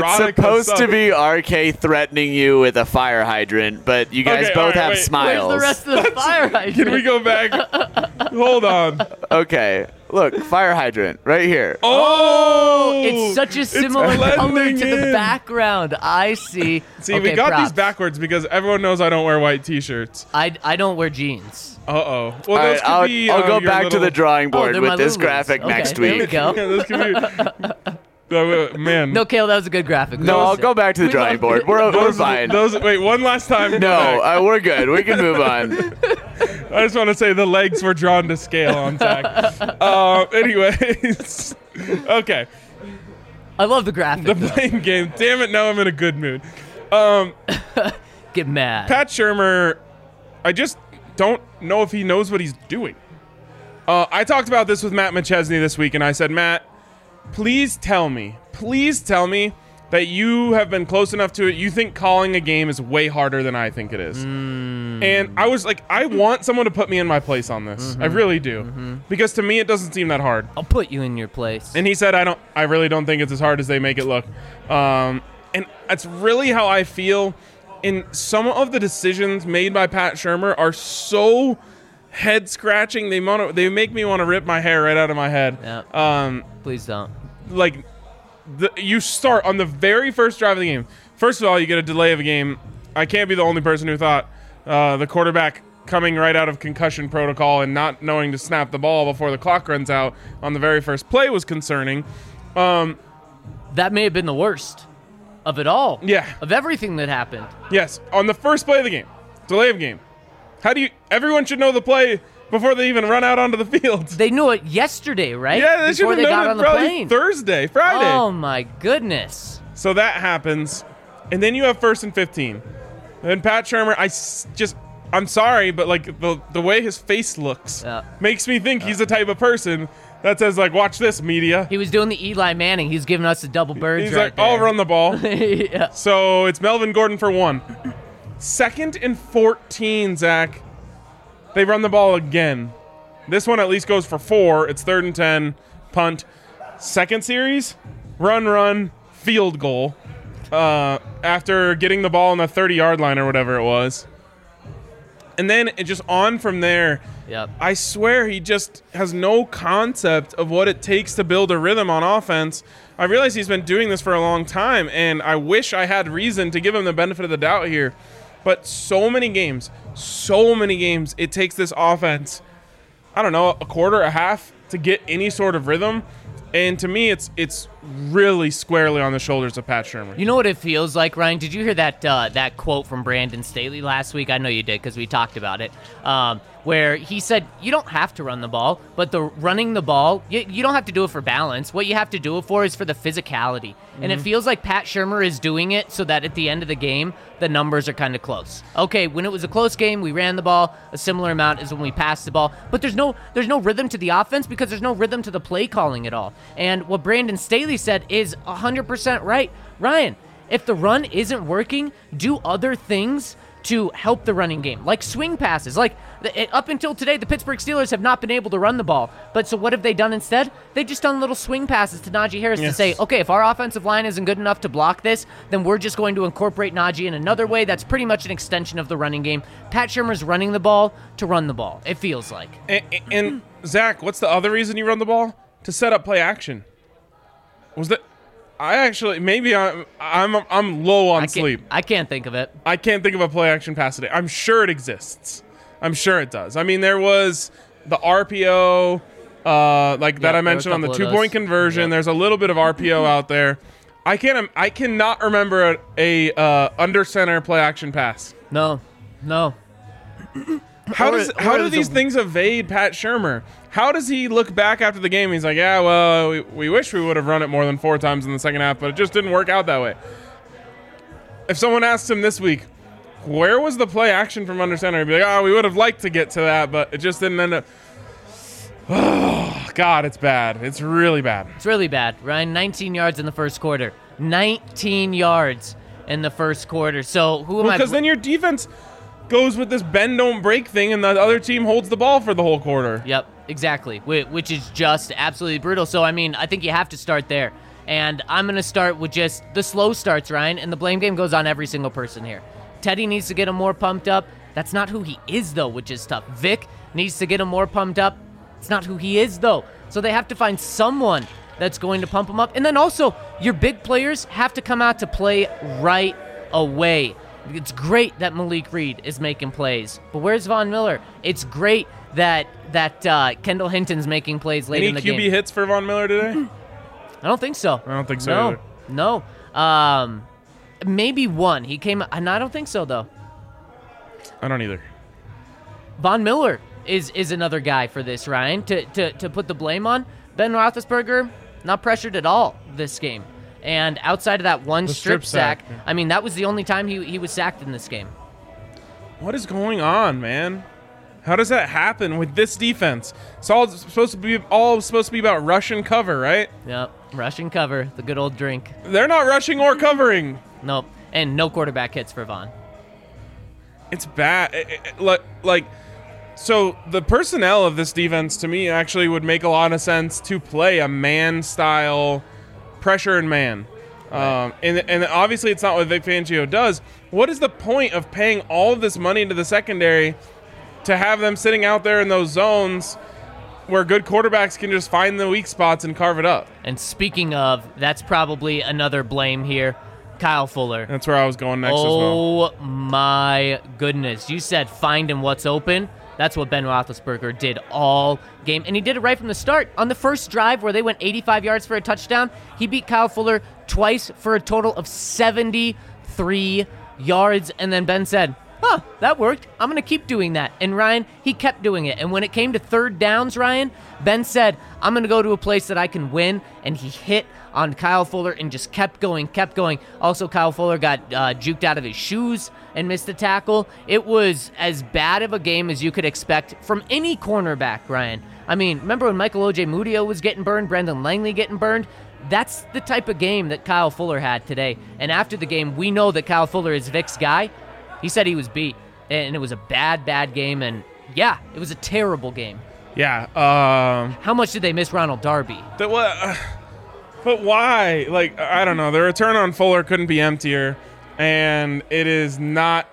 RK threatening you with a fire hydrant, but you guys both have smiles.
Where's the rest of the fire hydrant?
Can we go back? Hold on.
Okay. Look, fire hydrant right here.
Oh!
It's such a similar color to the background. I see.
See, we got these backwards because everyone knows I don't wear white T-shirts.
I don't wear jeans.
Uh-oh. Well,
I'll go back to the drawing board with this graphic next week.
There we go.
Yeah, this could be... Man.
No, Kale, that was a good graphic.
No, I'll go back to the drawing board. We're fine.
Wait, one last time.
No, we're good. We can move on.
I just want to say the legs were drawn to scale on Zach. Anyways. Okay.
I love the graphic.
The blame game. Damn it, now I'm in a good mood.
Get mad.
Pat Shurmur, I just don't know if he knows what he's doing. I talked about this with Matt McChesney this week, and I said, Matt, please tell me that you have been close enough to it. You think calling a game is way harder than I think it is. And I was like, I want someone to put me in my place on this. I really do. Because to me, it doesn't seem that hard.
I'll put you in your place.
And he said, I really don't think it's as hard as they make it look. And that's really how I feel. And some of the decisions made by Pat Shurmur are so head scratching. They make me want to rip my hair right out of my head.
Yeah. Please don't.
Like, you start on the very first drive of the game. First of all, you get a delay of a game. I can't be the only person who thought the quarterback coming right out of concussion protocol and not knowing to snap the ball before the clock runs out on the very first play was concerning.
That may have been the worst of it all.
Yeah.
Of everything that happened.
Yes, on the first play of the game. Delay of game. Everyone should know the play before they even run out onto the field.
They knew it yesterday, right?
Yeah, they should have known it probably
Thursday,
Friday.
Oh, my goodness.
So that happens, and then you have 1st and 15. And Pat Shurmur, I'm sorry, but like the way his face looks makes me think he's the type of person that says, like, watch this, media.
He was doing the Eli Manning. He's giving us the double birds.
He's like, I'll run the ball.
Yeah.
So it's Melvin Gordon for 1. 2nd and 14, Zach. They run the ball again. This one at least goes for 4. It's 3rd and 10, punt. Second series, run, field goal. after getting the ball on the 30-yard line or whatever it was. And then it just on from there.
Yep.
I swear he just has no concept of what it takes to build a rhythm on offense. I realize he's been doing this for a long time, and I wish I had reason to give him the benefit of the doubt here. But so many games, it takes this offense, I don't know, a quarter, a half to get any sort of rhythm. And to me, it's really squarely on the shoulders of Pat Shurmur.
You know what it feels like, Ryan? Did you hear that quote from Brandon Staley last week? I know you did because we talked about it. Where he said, you don't have to run the ball, but running the ball, you don't have to do it for balance. What you have to do it for is for the physicality. And it feels like Pat Shurmur is doing it so that at the end of the game, the numbers are kind of close. Okay, when it was a close game, we ran the ball a similar amount as when we passed the ball, but there's no rhythm to the offense because there's no rhythm to the play calling at all. And what Brandon Staley said is 100% right. Ryan, if the run isn't working, do other things to help the running game, like swing passes. Like up until today, the Pittsburgh Steelers have not been able to run the ball. But so what have they done instead? They've just done little swing passes to Najee Harris to say, okay, if our offensive line isn't good enough to block this, then we're just going to incorporate Najee in another way. That's pretty much an extension of the running game. Pat Shurmur's running the ball to run the ball, it feels like.
And Zach, what's the other reason you run the ball? To set up play action. Was that? I actually, maybe I'm low on sleep.
I can't think of it.
I can't think of a play action pass today. I'm sure it exists. I'm sure it does. I mean, there was the RPO, that I mentioned on the 2-point conversion.
Yep.
There's a little bit of RPO out there. I cannot remember a under center play action pass.
No.
How do these things evade Pat Shurmur? How does he look back after the game? He's like, yeah, well, we wish we would have run it more than 4 times in the second half, but it just didn't work out that way. If someone asks him this week, where was the play action from under center? He'd be like, oh, we would have liked to get to that, but it just didn't end up. Oh, God, it's bad. It's really bad.
It's really bad, Ryan. 19 yards in the first quarter. 19 yards in the first quarter. So who am I?
Because then your defense goes with this bend don't break thing, and the other team holds the ball for the whole quarter.
Yep, exactly, which is just absolutely brutal. So, I mean, I think you have to start there. And I'm going to start with just the slow starts, Ryan, and the blame game goes on every single person here. Teddy needs to get him more pumped up. That's not who he is, though, which is tough. Vic needs to get him more pumped up. It's not who he is, though. So they have to find someone that's going to pump him up. And then also, your big players have to come out to play right away. It's great that Malik Reed is making plays, but where's Von Miller? It's great that Kendall Hinton's making plays late in the game.
Any QB hits for Von Miller today?
I don't think so.
I don't think so either.
No. Maybe one. He came, and I don't think so, though.
I don't either.
Von Miller is another guy for this, Ryan, to put the blame on. Ben Roethlisberger, not pressured at all this game. And outside of that one strip sack, I mean, that was the only time he was sacked in this game.
What is going on, man? How does that happen with this defense? It's all supposed to be about rush and cover, right?
Yep, rush and cover, the good old drink.
They're not rushing or covering.
Nope, and no quarterback hits for Von.
It's bad. So the personnel of this defense, to me, actually would make a lot of sense to play a man-style pressure and man. Right. And obviously it's not what Vic Fangio does. What is the point of paying all of this money into the secondary to have them sitting out there in those zones where good quarterbacks can just find the weak spots and carve it up?
And speaking of, that's probably another blame here. Kyle Fuller.
That's where I was going next as well.
Oh my goodness. You said find him what's open. That's what Ben Roethlisberger did all game. And he did it right from the start. On the first drive where they went 85 yards for a touchdown, he beat Kyle Fuller twice for a total of 73 yards. And then Ben said, that worked. I'm going to keep doing that. And Ryan, he kept doing it. And when it came to third downs, Ryan, Ben said, I'm going to go to a place that I can win. And he hit on Kyle Fuller and just kept going. Also, Kyle Fuller got juked out of his shoes and missed a tackle. It was as bad of a game as you could expect from any cornerback, Ryan. I mean, remember when Michael Ojemudia was getting burned, Brendan Langley getting burned? That's the type of game that Kyle Fuller had today. And after the game, we know that Kyle Fuller is Vic's guy. He said he was beat, and it was a bad game, and yeah, it was a terrible game.
Yeah.
How much did they miss Ronald Darby?
But why? Like, I don't know. The return on Fuller couldn't be emptier, and it is not.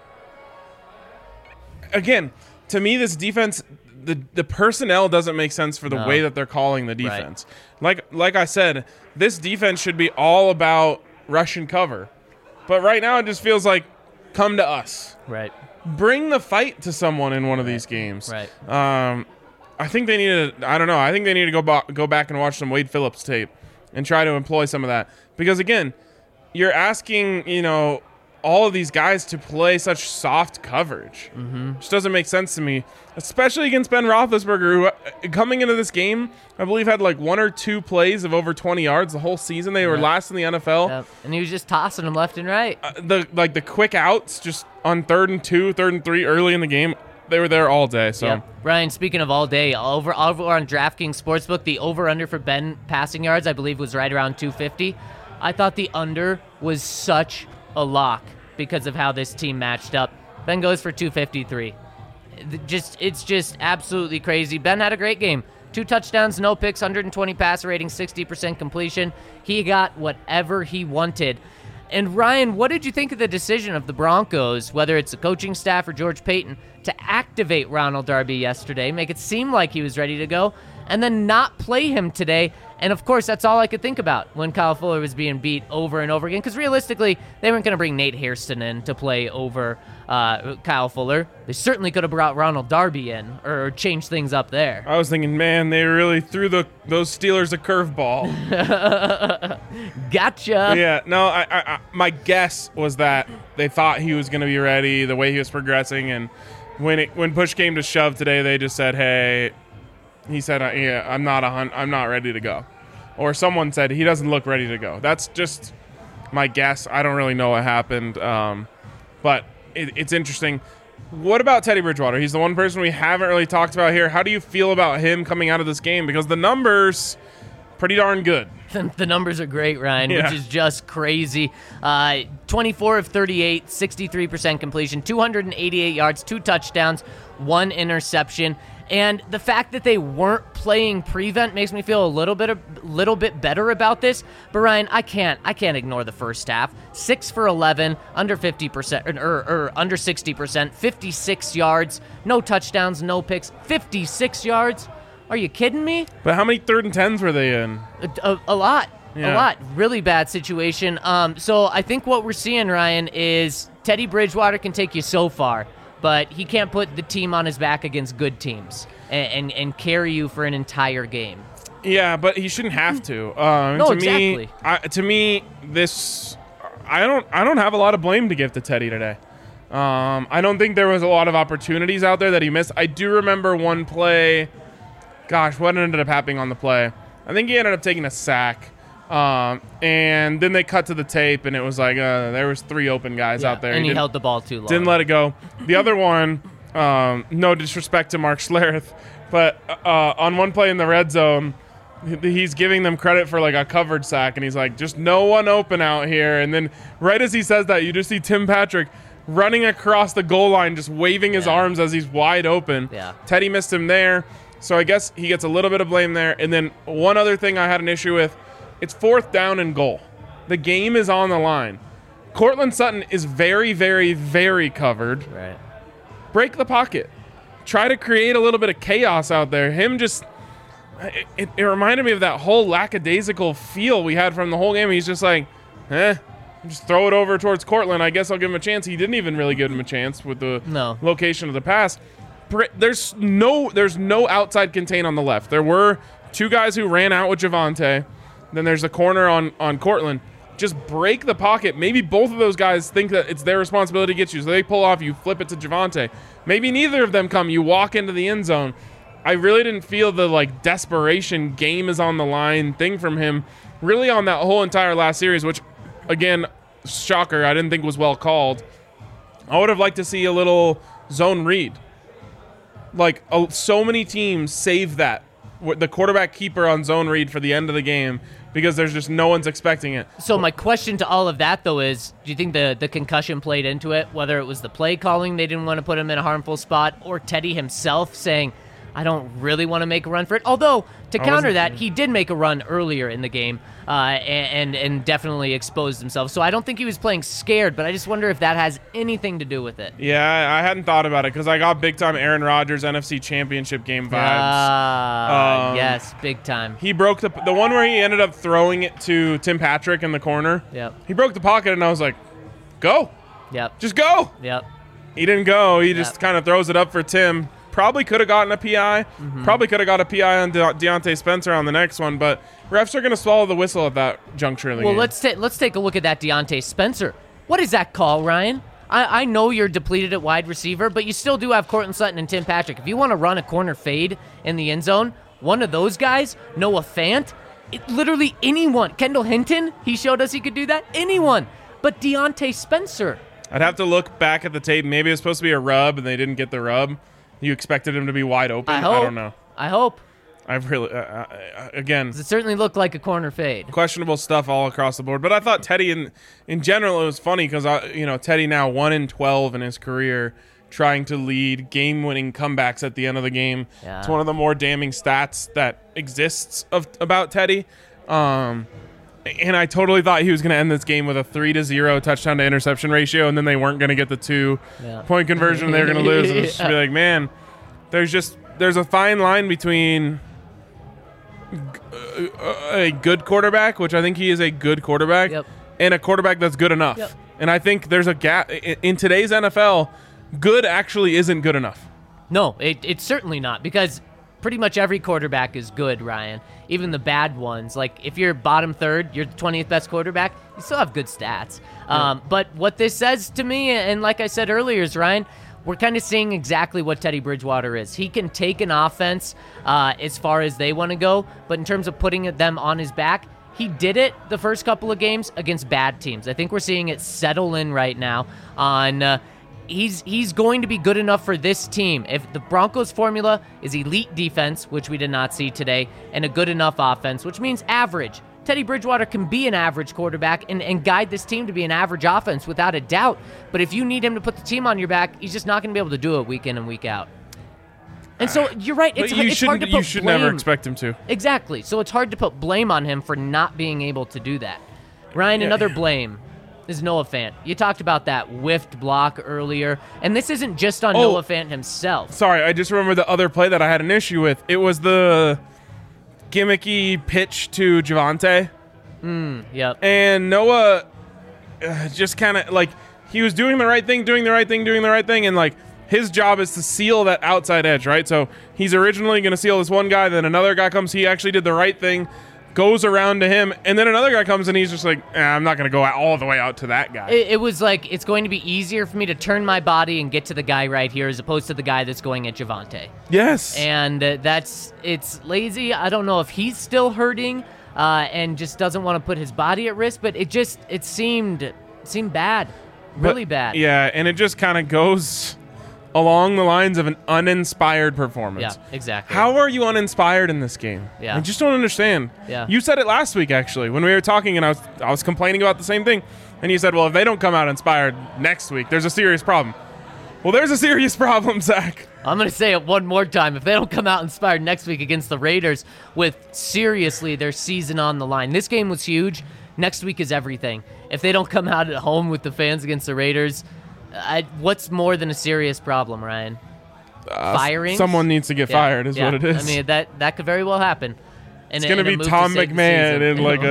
Again, to me, this defense, the personnel doesn't make sense for the way that they're calling the defense. Right. Like I said, this defense should be all about rush and cover. But right now, it just feels like, come to us.
Right.
Bring the fight to someone in one of these games.
Right.
I think they need to. I don't know. I think they need to go back and watch some Wade Phillips tape and try to employ some of that. Because again, you're asking, all of these guys to play such soft coverage, which doesn't make sense to me, especially against Ben Roethlisberger, who coming into this game, I believe had like 1 or 2 plays of over 20 yards the whole season. They were last in the NFL.
Yep. And he was just tossing them left and right.
The quick outs just on 3rd and 2, 3rd and 3 early in the game, they were there all day. So,
yep. Ryan, speaking of all day, over on DraftKings Sportsbook, the over-under for Ben passing yards, I believe, was right around 250. I thought the under was such a lock because of how this team matched up. Ben goes for 253. It's just absolutely crazy. Ben had a great game. 2 touchdowns, no picks, 120 passer rating, 60% completion. He got whatever he wanted. And Ryan, what did you think of the decision of the Broncos, whether it's the coaching staff or George Payton, to activate Ronald Darby yesterday, make it seem like he was ready to go, and then not play him today? And, of course, that's all I could think about when Kyle Fuller was being beat over and over again, because realistically, they weren't going to bring Nate Hairston in to play over Kyle Fuller. They certainly could have brought Ronald Darby in or changed things up there.
I was thinking, man, they really threw those Steelers a curveball.
Gotcha.
Yeah, no, I my guess was that they thought he was going to be ready, the way he was progressing, and when push came to shove today, they just said, hey, he said, yeah, I'm not ready to go. Or someone said he doesn't look ready to go. That's just my guess. I don't really know what happened. But it's interesting. What about Teddy Bridgewater? He's the one person we haven't really talked about here. How do you feel about him coming out of this game? Because the numbers, pretty darn good.
The numbers are great, Ryan, which is just crazy. 24 of 38, 63% completion, 288 yards, 2 touchdowns, 1 interception. And the fact that they weren't playing prevent makes me feel a little bit better about this. But Ryan, I can't ignore the first half. 6 for 11, under 50% or under 60%, 56 yards, no touchdowns, no picks, 56 yards. Are you kidding me?
But how many 3rd and 10s were they in?
A lot.
Yeah.
A lot. Really bad situation. So I think what we're seeing, Ryan, is Teddy Bridgewater can take you so far, but he can't put the team on his back against good teams and carry you for an entire game.
Yeah, but he shouldn't have to.
Exactly.
To me, this I don't have a lot of blame to give to Teddy today. I don't think there was a lot of opportunities out there that he missed. I do remember one play. Gosh, what ended up happening on the play? I think he ended up taking a sack. And then they cut to the tape, and it was like there was 3 open guys out there.
And he held the ball too long.
Didn't let it go. The other one, no disrespect to Mark Schlereth, but on one play in the red zone, he's giving them credit for like a covered sack, and he's like, just no one open out here. And then right as he says that, you just see Tim Patrick running across the goal line, just waving his arms as he's wide open.
Yeah.
Teddy missed him there, so I guess he gets a little bit of blame there. And then one other thing I had an issue with, it's 4th down and goal. The game is on the line. Cortland Sutton is very, very, very covered.
Right.
Break the pocket. Try to create a little bit of chaos out there. It reminded me of that whole lackadaisical feel we had from the whole game. He's just like, just throw it over towards Cortland. I guess I'll give him a chance. He didn't even really give him a chance with the location of the pass. There's no outside contain on the left. There were 2 guys who ran out with Javonte. Then there's a corner on Cortland. Just break the pocket. Maybe both of those guys think that it's their responsibility to get you. So they pull off, you flip it to Javonte. Maybe neither of them come. You walk into the end zone. I really didn't feel the like desperation, game is on the line thing from him really on that whole entire last series, which, again, shocker, I didn't think was well called. I would have liked to see a little zone read. Like, so many teams save that. The quarterback keeper on zone read for the end of the game because there's just no one's expecting it.
So my question to all of that, though, is do you think the concussion played into it, whether it was the play calling, they didn't want to put him in a harmful spot, or Teddy himself saying, I don't really want to make a run for it. Although, to counter that, he did make a run earlier in the game and definitely exposed himself. So I don't think he was playing scared, but I just wonder if that has anything to do with it.
Yeah, I hadn't thought about it because I got big-time Aaron Rodgers NFC Championship game vibes.
Yes, big time.
He broke the one where he ended up throwing it to Tim Patrick in the corner.
Yep.
He broke the pocket, and I was like, go.
Yep.
Just go.
Yep.
He didn't go. He just kind of throws it up for Tim. Probably could have gotten a PI. Probably could have got a PI on Deontay Spencer on the next one, but refs are going to swallow the whistle at that juncture of the game.
Well, let's take a look at that Deontay Spencer. What is that call, Ryan? I know you're depleted at wide receiver, but you still do have Courtland Sutton and Tim Patrick. If you want to run a corner fade in the end zone, one of those guys, Noah Fant, literally anyone. Kendall Hinton, he showed us he could do that. Anyone. But Deontay Spencer.
I'd have to look back at the tape. Maybe it was supposed to be a rub, and they didn't get the rub. You expected him to be wide open?
I
don't know.
I hope.
I've really, again,
It certainly looked like a corner fade.
questionable stuff all across the board. But I thought Teddy, in general, it was funny because Teddy now 1-12 in his career, trying to lead game-winning comebacks at the end of the game.
Yeah.
It's one of the more damning stats that exists about Teddy. And I totally thought he was going to end this game with a 3-0 touchdown to interception ratio, and then they weren't going to get the 2-point conversion. They were going to lose. And just be like, man, there's a fine line between a good quarterback, which I think he is a good quarterback, and a quarterback that's good enough.
Yep.
And I think there's a gap in today's NFL. Good actually isn't good enough.
No, it's certainly not, because pretty much every quarterback is good, Ryan. Even the bad ones. Like, if you're bottom third, you're the 20th best quarterback, you still have good stats. But what this says to me, and like I said earlier, is, Ryan, we're kind of seeing exactly what Teddy Bridgewater is. He can take an offense as far as they want to go, but in terms of putting them on his back, he did it the first couple of games against bad teams. I think we're seeing it settle in right now on he's going to be good enough for this team. If the Broncos formula is elite defense, which we did not see today, and a good enough offense, which means average, Teddy Bridgewater can be an average quarterback and guide this team to be an average offense without a doubt. But if you need him to put the team on your back, he's just not going to be able to do it week in and week out. And so you're right. It's hard to put
You should
blame.
never expect him to.
Exactly. So it's hard to put blame on him for not being able to do that. Ryan, another blame is Noah Fant. You talked about that whiffed block earlier, and this isn't just on Noah Fant himself.
Sorry, I just remember the other play that I had an issue with. It was the gimmicky pitch to Javonte.
Yep.
And Noah just kind of, like, he was doing the right thing, and, like, his job is to seal that outside edge, right? So he's originally going to seal this one guy, then another guy comes, he actually did the right thing, goes around to him, and then another guy comes and he's just like, I'm not going to go all the way out to that guy.
It was like, it's going to be easier for me to turn my body and get to the guy right here as opposed to the guy that's going at Javonte.
Yes.
And it's lazy. I don't know if he's still hurting and just doesn't want to put his body at risk, but it seemed bad, really bad.
Yeah, and it just kind of goes along the lines of an uninspired performance.
Yeah, exactly.
How are you uninspired in this game?
Yeah.
I just don't understand.
Yeah.
You said it last week, actually, when we were talking, and I was complaining about the same thing, and you said, well, if they don't come out inspired next week, there's a serious problem. Well, there's a serious problem, Zach.
I'm going to say it one more time. If they don't come out inspired next week against the Raiders with, seriously, their season on the line. This game was huge. Next week is everything. If they don't come out at home with the fans against the Raiders, what's more than a serious problem, Ryan? Firing?
Someone needs to get fired is what it is.
I mean, that could very well happen.
It's going to be Tom McMahon in like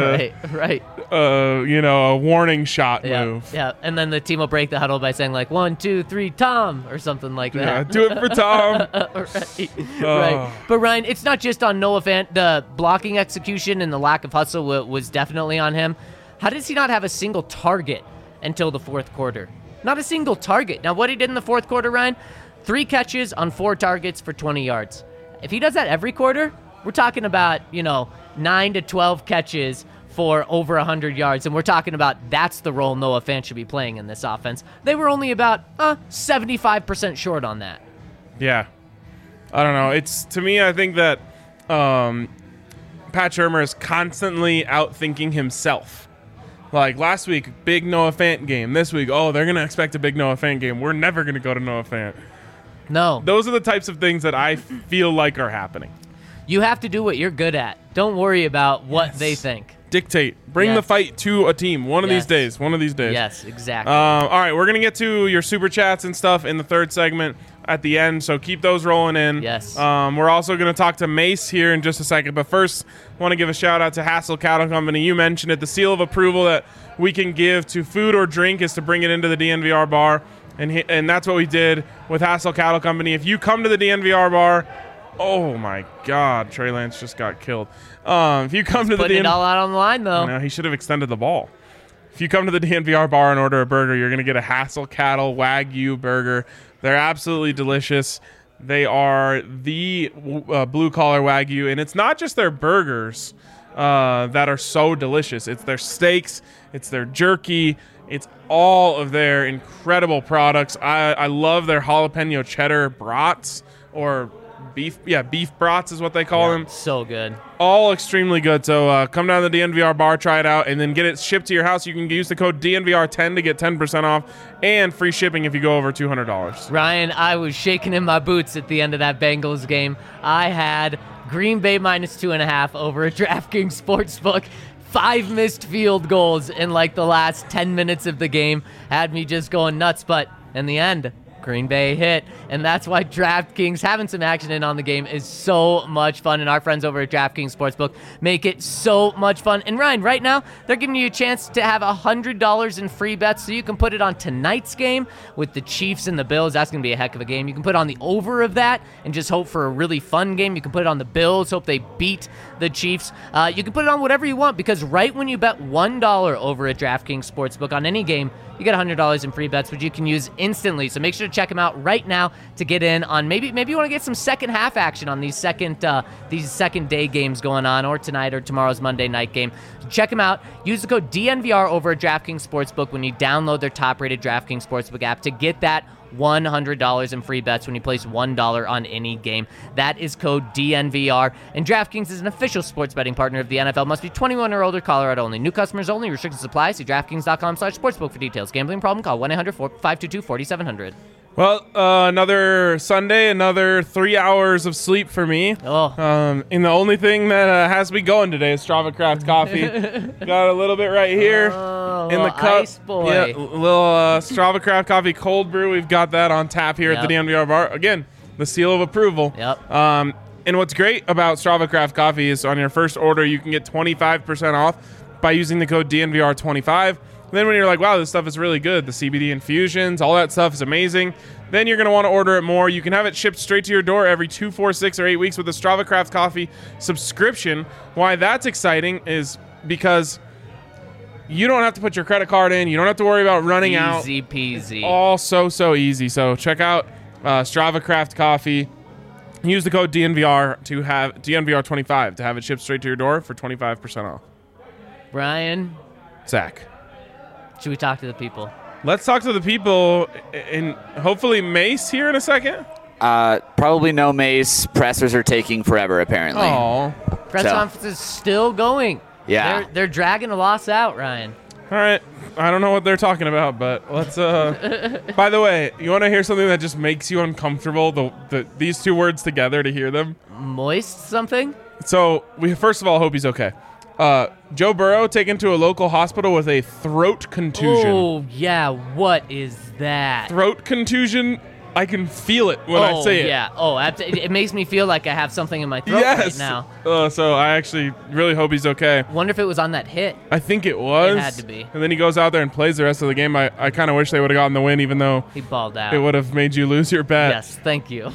a warning shot move.
Yeah, and then the team will break the huddle by saying like 1, 2, 3, Tom, or something like that.
Yeah, do it for Tom.
Right. But Ryan, it's not just on Noah Fant. The blocking execution and the lack of hustle was definitely on him. How does he not have a single target until the fourth quarter? Not a single target. Now, what he did in the fourth quarter, Ryan, 3 catches on 4 targets for 20 yards. If he does that every quarter, we're talking about, 9 to 12 catches for over 100 yards, and we're talking about that's the role Noah Fant should be playing in this offense. They were only about 75% short on that.
Yeah. I don't know. To me, I think that Pat Shurmur is constantly outthinking himself. Like last week, big Noah Fant game. This week, they're going to expect a big Noah Fant game. We're never going to go to Noah Fant.
No.
Those are the types of things that I feel like are happening.
You have to do what you're good at. Don't worry about what they think.
Dictate. Bring the
Yes.
fight to a team. One of these
Yes.
days. One of these days.
Yes, exactly.
All right, we're going to get to your super chats and stuff in the third segment at the end, so keep those rolling in.
Yes.
We're also going to talk to Mace here in just a second, but first, I want to give a shout-out to Hassel Cattle Company. You mentioned it. The seal of approval that we can give to food or drink is to bring it into the DNVR bar, and that's what we did with Hassel Cattle Company. If you come to the DNVR bar, oh, my God, Trey Lance just got killed. If you come to the
Putting it all out on the line, though.
no, he should have extended the ball. If you come to the DNVR bar and order a burger, you're going to get a Hassel Cattle Wagyu burger. They're absolutely delicious. They are the blue-collar Wagyu, and it's not just their burgers that are so delicious. It's their steaks. It's their jerky. It's all of their incredible products. I love their jalapeno cheddar brats, or beef brats is what they call them.
So good.
All extremely good. So come down to the DNVR bar, try it out, and then get it shipped to your house. You can use the code DNVR10 to get 10% off and free shipping if you go over $200.
Ryan, I was shaking in my boots at the end of that Bengals game. I had Green Bay -2.5 over at DraftKings Sportsbook. 5 missed field goals in like the last 10 minutes of the game had me just going nuts. But in the end, Green Bay hit, and that's why DraftKings, having some action in on the game, is so much fun, and our friends over at DraftKings Sportsbook make it so much fun. And Ryan, right now, they're giving you a chance to have $100 in free bets, so you can put it on tonight's game with the Chiefs and the Bills. That's going to be a heck of a game. You can put on the over of that and just hope for a really fun game. You can put it on the Bills, hope they beat the Chiefs. You can put it on whatever you want, because right when you bet $1 over at DraftKings Sportsbook on any game, you get $100 in free bets, which you can use instantly. So make sure to check them out right now to get in on maybe you want to get some second half action on these second day games going on, or tonight or tomorrow's Monday night game. Check them out. Use the code DNVR over at DraftKings Sportsbook when you download their top-rated DraftKings Sportsbook app to get that $100 in free bets when you place $1 on any game. That is code DNVR. And DraftKings is an official sports betting partner of the NFL. Must be 21 or older, Colorado only. New customers only. Restrictions apply. See DraftKings.com/sportsbook for details. Gambling problem? Call 1-800-522-4700.
Well, another Sunday, another 3 hours of sleep for me.
Oh.
And the only thing that has me going today is Strava Craft Coffee. Got a little bit right here in the cup.
Ice boy.
Yeah, little Strava Craft Coffee cold brew. We've got that on tap here at the DNVR bar. Again, the seal of approval.
Yep.
And what's great about Strava Craft Coffee is on your first order, you can get 25% off by using the code DNVR25. Then when you're like, wow, this stuff is really good, the CBD infusions, all that stuff is amazing, then you're going to want to order it more. You can have it shipped straight to your door every 2, 4, 6, or 8 weeks with a Strava Craft Coffee subscription. Why that's exciting is because you don't have to put your credit card in. You don't have to worry about running out.
Easy peasy.
All so easy. So check out Strava Craft Coffee. Use the code DNVR to have DNVR25 to have it shipped straight to your door for 25% off.
Brian,
Zach.
should we talk to the people?
Let's talk to the people, and hopefully Mace here in a second.
Probably no Mace. Pressers are taking forever, apparently.
Oh,
Press
So-
conference is still going.
Yeah.
They're dragging a loss out, Ryan.
all right. I don't know what they're talking about, but let's. By the way, you want to hear something that just makes you uncomfortable? These two words together to hear them.
Moist something?
So we first of all hope he's okay. Joe Burrow taken to a local hospital with a throat contusion.
Oh, yeah. What is that?
Throat contusion. I can feel it when I say it.
Yeah. Oh, it makes me feel like I have something in my throat
Yes.
right now.
So I actually really hope he's okay.
Wonder if it was on that hit.
I think it was.
It had to be.
And then he goes out there and plays the rest of the game. I kind of wish they would have gotten the win, even though
He balled out.
it would have made you lose your bet.
Yes, thank you.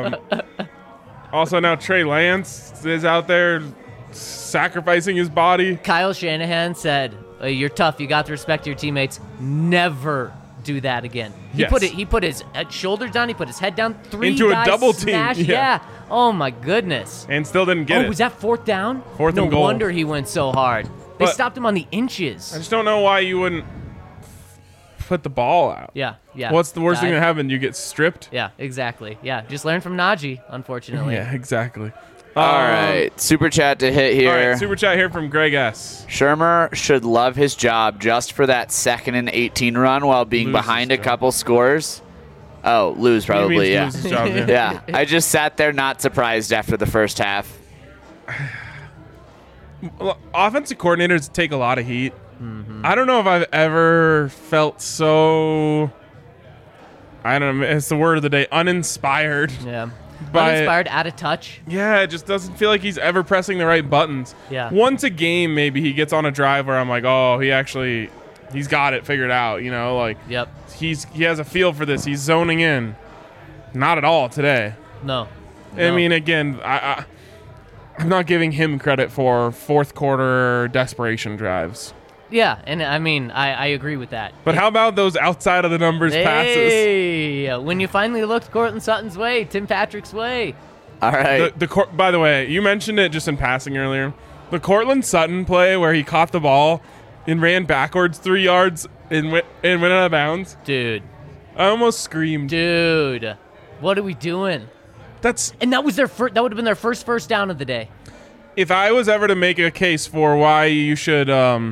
Also, now Trey Lance is out there sacrificing his body.
Kyle Shanahan said, "You're tough. You got to respect your teammates. Never do that again."
Yes.
He put his shoulders down. He put his head down. Three
Into a
guys
double team,
smash.
yeah.
Oh my goodness.
And still didn't get it.
Was that fourth down?
Fourth and
No
goal.
wonder he went so hard. They
But-
stopped him on the inches.
I just don't know why you wouldn't put the ball out.
Yeah.
What's the worst thing
Dive.
that happened? You get stripped?
Yeah, exactly. Yeah, just learn from Najee, unfortunately.
Yeah, exactly.
All right. Super chat to hit here.
All right, super chat here from Greg S.
Shermer should love his job just for that 2nd and 18 run while being
Loses
behind a
job.
couple scores. Oh, lose probably,
means
yeah.
lose his job, yeah.
Yeah, I just sat there not surprised after the first half.
Well, offensive coordinators take a lot of heat. I don't know if I've ever felt so, I don't know, it's the word of the day, uninspired.
Yeah.
By-
Uninspired, out of touch.
Yeah, it just doesn't feel like he's ever pressing the right buttons.
Yeah.
Once a game, maybe he gets on a drive where I'm like, oh, he's got it figured out, like
Yep.
he has a feel for this. He's zoning in. Not at all today.
No.
I mean, again, I'm not giving him credit for fourth quarter desperation drives.
Yeah, and I mean, I agree with that.
But how about those outside of the numbers passes?
Hey, when you finally looked Cortland Sutton's way, Tim Patrick's way.
All right.
By the way, you mentioned it just in passing earlier. The Cortland Sutton play where he caught the ball and ran backwards 3 yards and went out of bounds.
Dude.
I almost screamed.
Dude. What are we doing? And that was that would have been their first down of the day.
If I was ever to make a case for why you should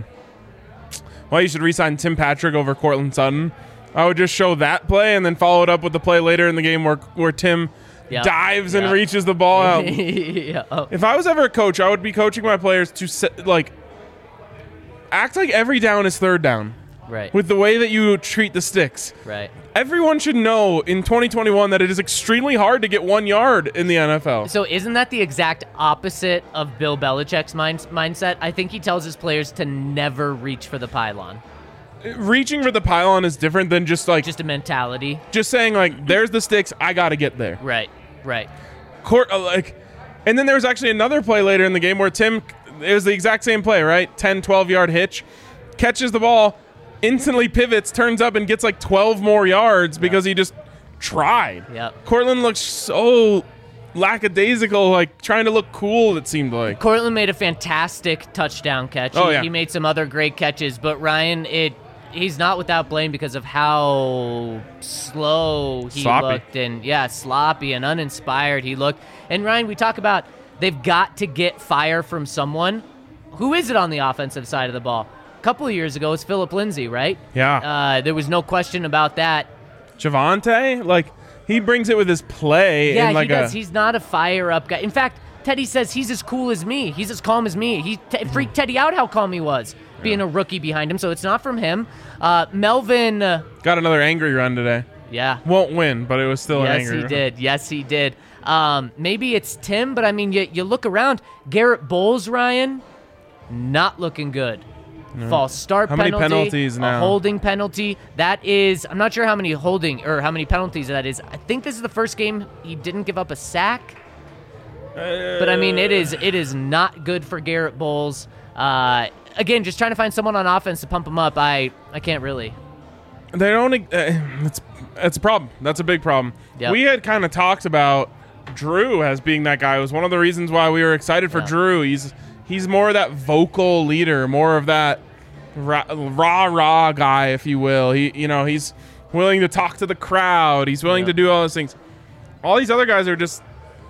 re-sign Tim Patrick over Cortland Sutton, I would just show that play and then follow it up with the play later in the game where Tim dives and reaches the ball out. If I was ever a coach, I would be coaching my players to act like every down is third down.
Right.
With the way that you treat the sticks.
Right.
Everyone should know in 2021 that it is extremely hard to get 1 yard in the NFL.
So isn't that the exact opposite of Bill Belichick's mindset? I think he tells his players to never reach for the pylon.
Reaching for the pylon is different than just
a mentality.
Just saying there's the sticks, I got to get there.
Right.
And then there was actually another play later in the game where Tim, it was the exact same play, right? 10, 12-yard hitch, catches the ball, instantly pivots, turns up, and gets 12 more yards because he just tried.
Yep.
Cortland looks so lackadaisical, trying to look cool, it seemed like.
Cortland made a fantastic touchdown catch. He made some other great catches, but Ryan, he's not without blame because of how slow he looked and sloppy and uninspired he looked. And Ryan, we talk about they've got to get fire from someone. Who is it on the offensive side of the ball? A couple of years ago, it was Phillip Lindsay, right?
Yeah.
There was no question about that.
Javonte, he brings it with his play.
Yeah, he does. He's not a fire-up guy. In fact, Teddy says he's as cool as me. He's as calm as me. He freaked Teddy out how calm he was, being a rookie behind him. So it's not from him. Melvin
got another angry run today.
Yeah.
Won't win, but it was still an angry run.
Yes, he did. Maybe it's Tim, but I mean, you look around. Garrett Bowles, Ryan, not looking good. No. False start penalty.
How many penalties now?
A holding penalty. That is, I'm not sure how many how many penalties that is. I think this is the first game he didn't give up a sack. But I mean, it is not good for Garrett Bowles. Again, just trying to find someone on offense to pump him up. I can't really.
They don't. It's a problem. That's a big problem.
Yep.
We had kind of talked about Drew as being that guy. It was one of the reasons why we were excited for Drew. He's more of that vocal leader, more of that rah guy, if you will. He's willing to talk to the crowd. He's willing to do all those things. All these other guys are just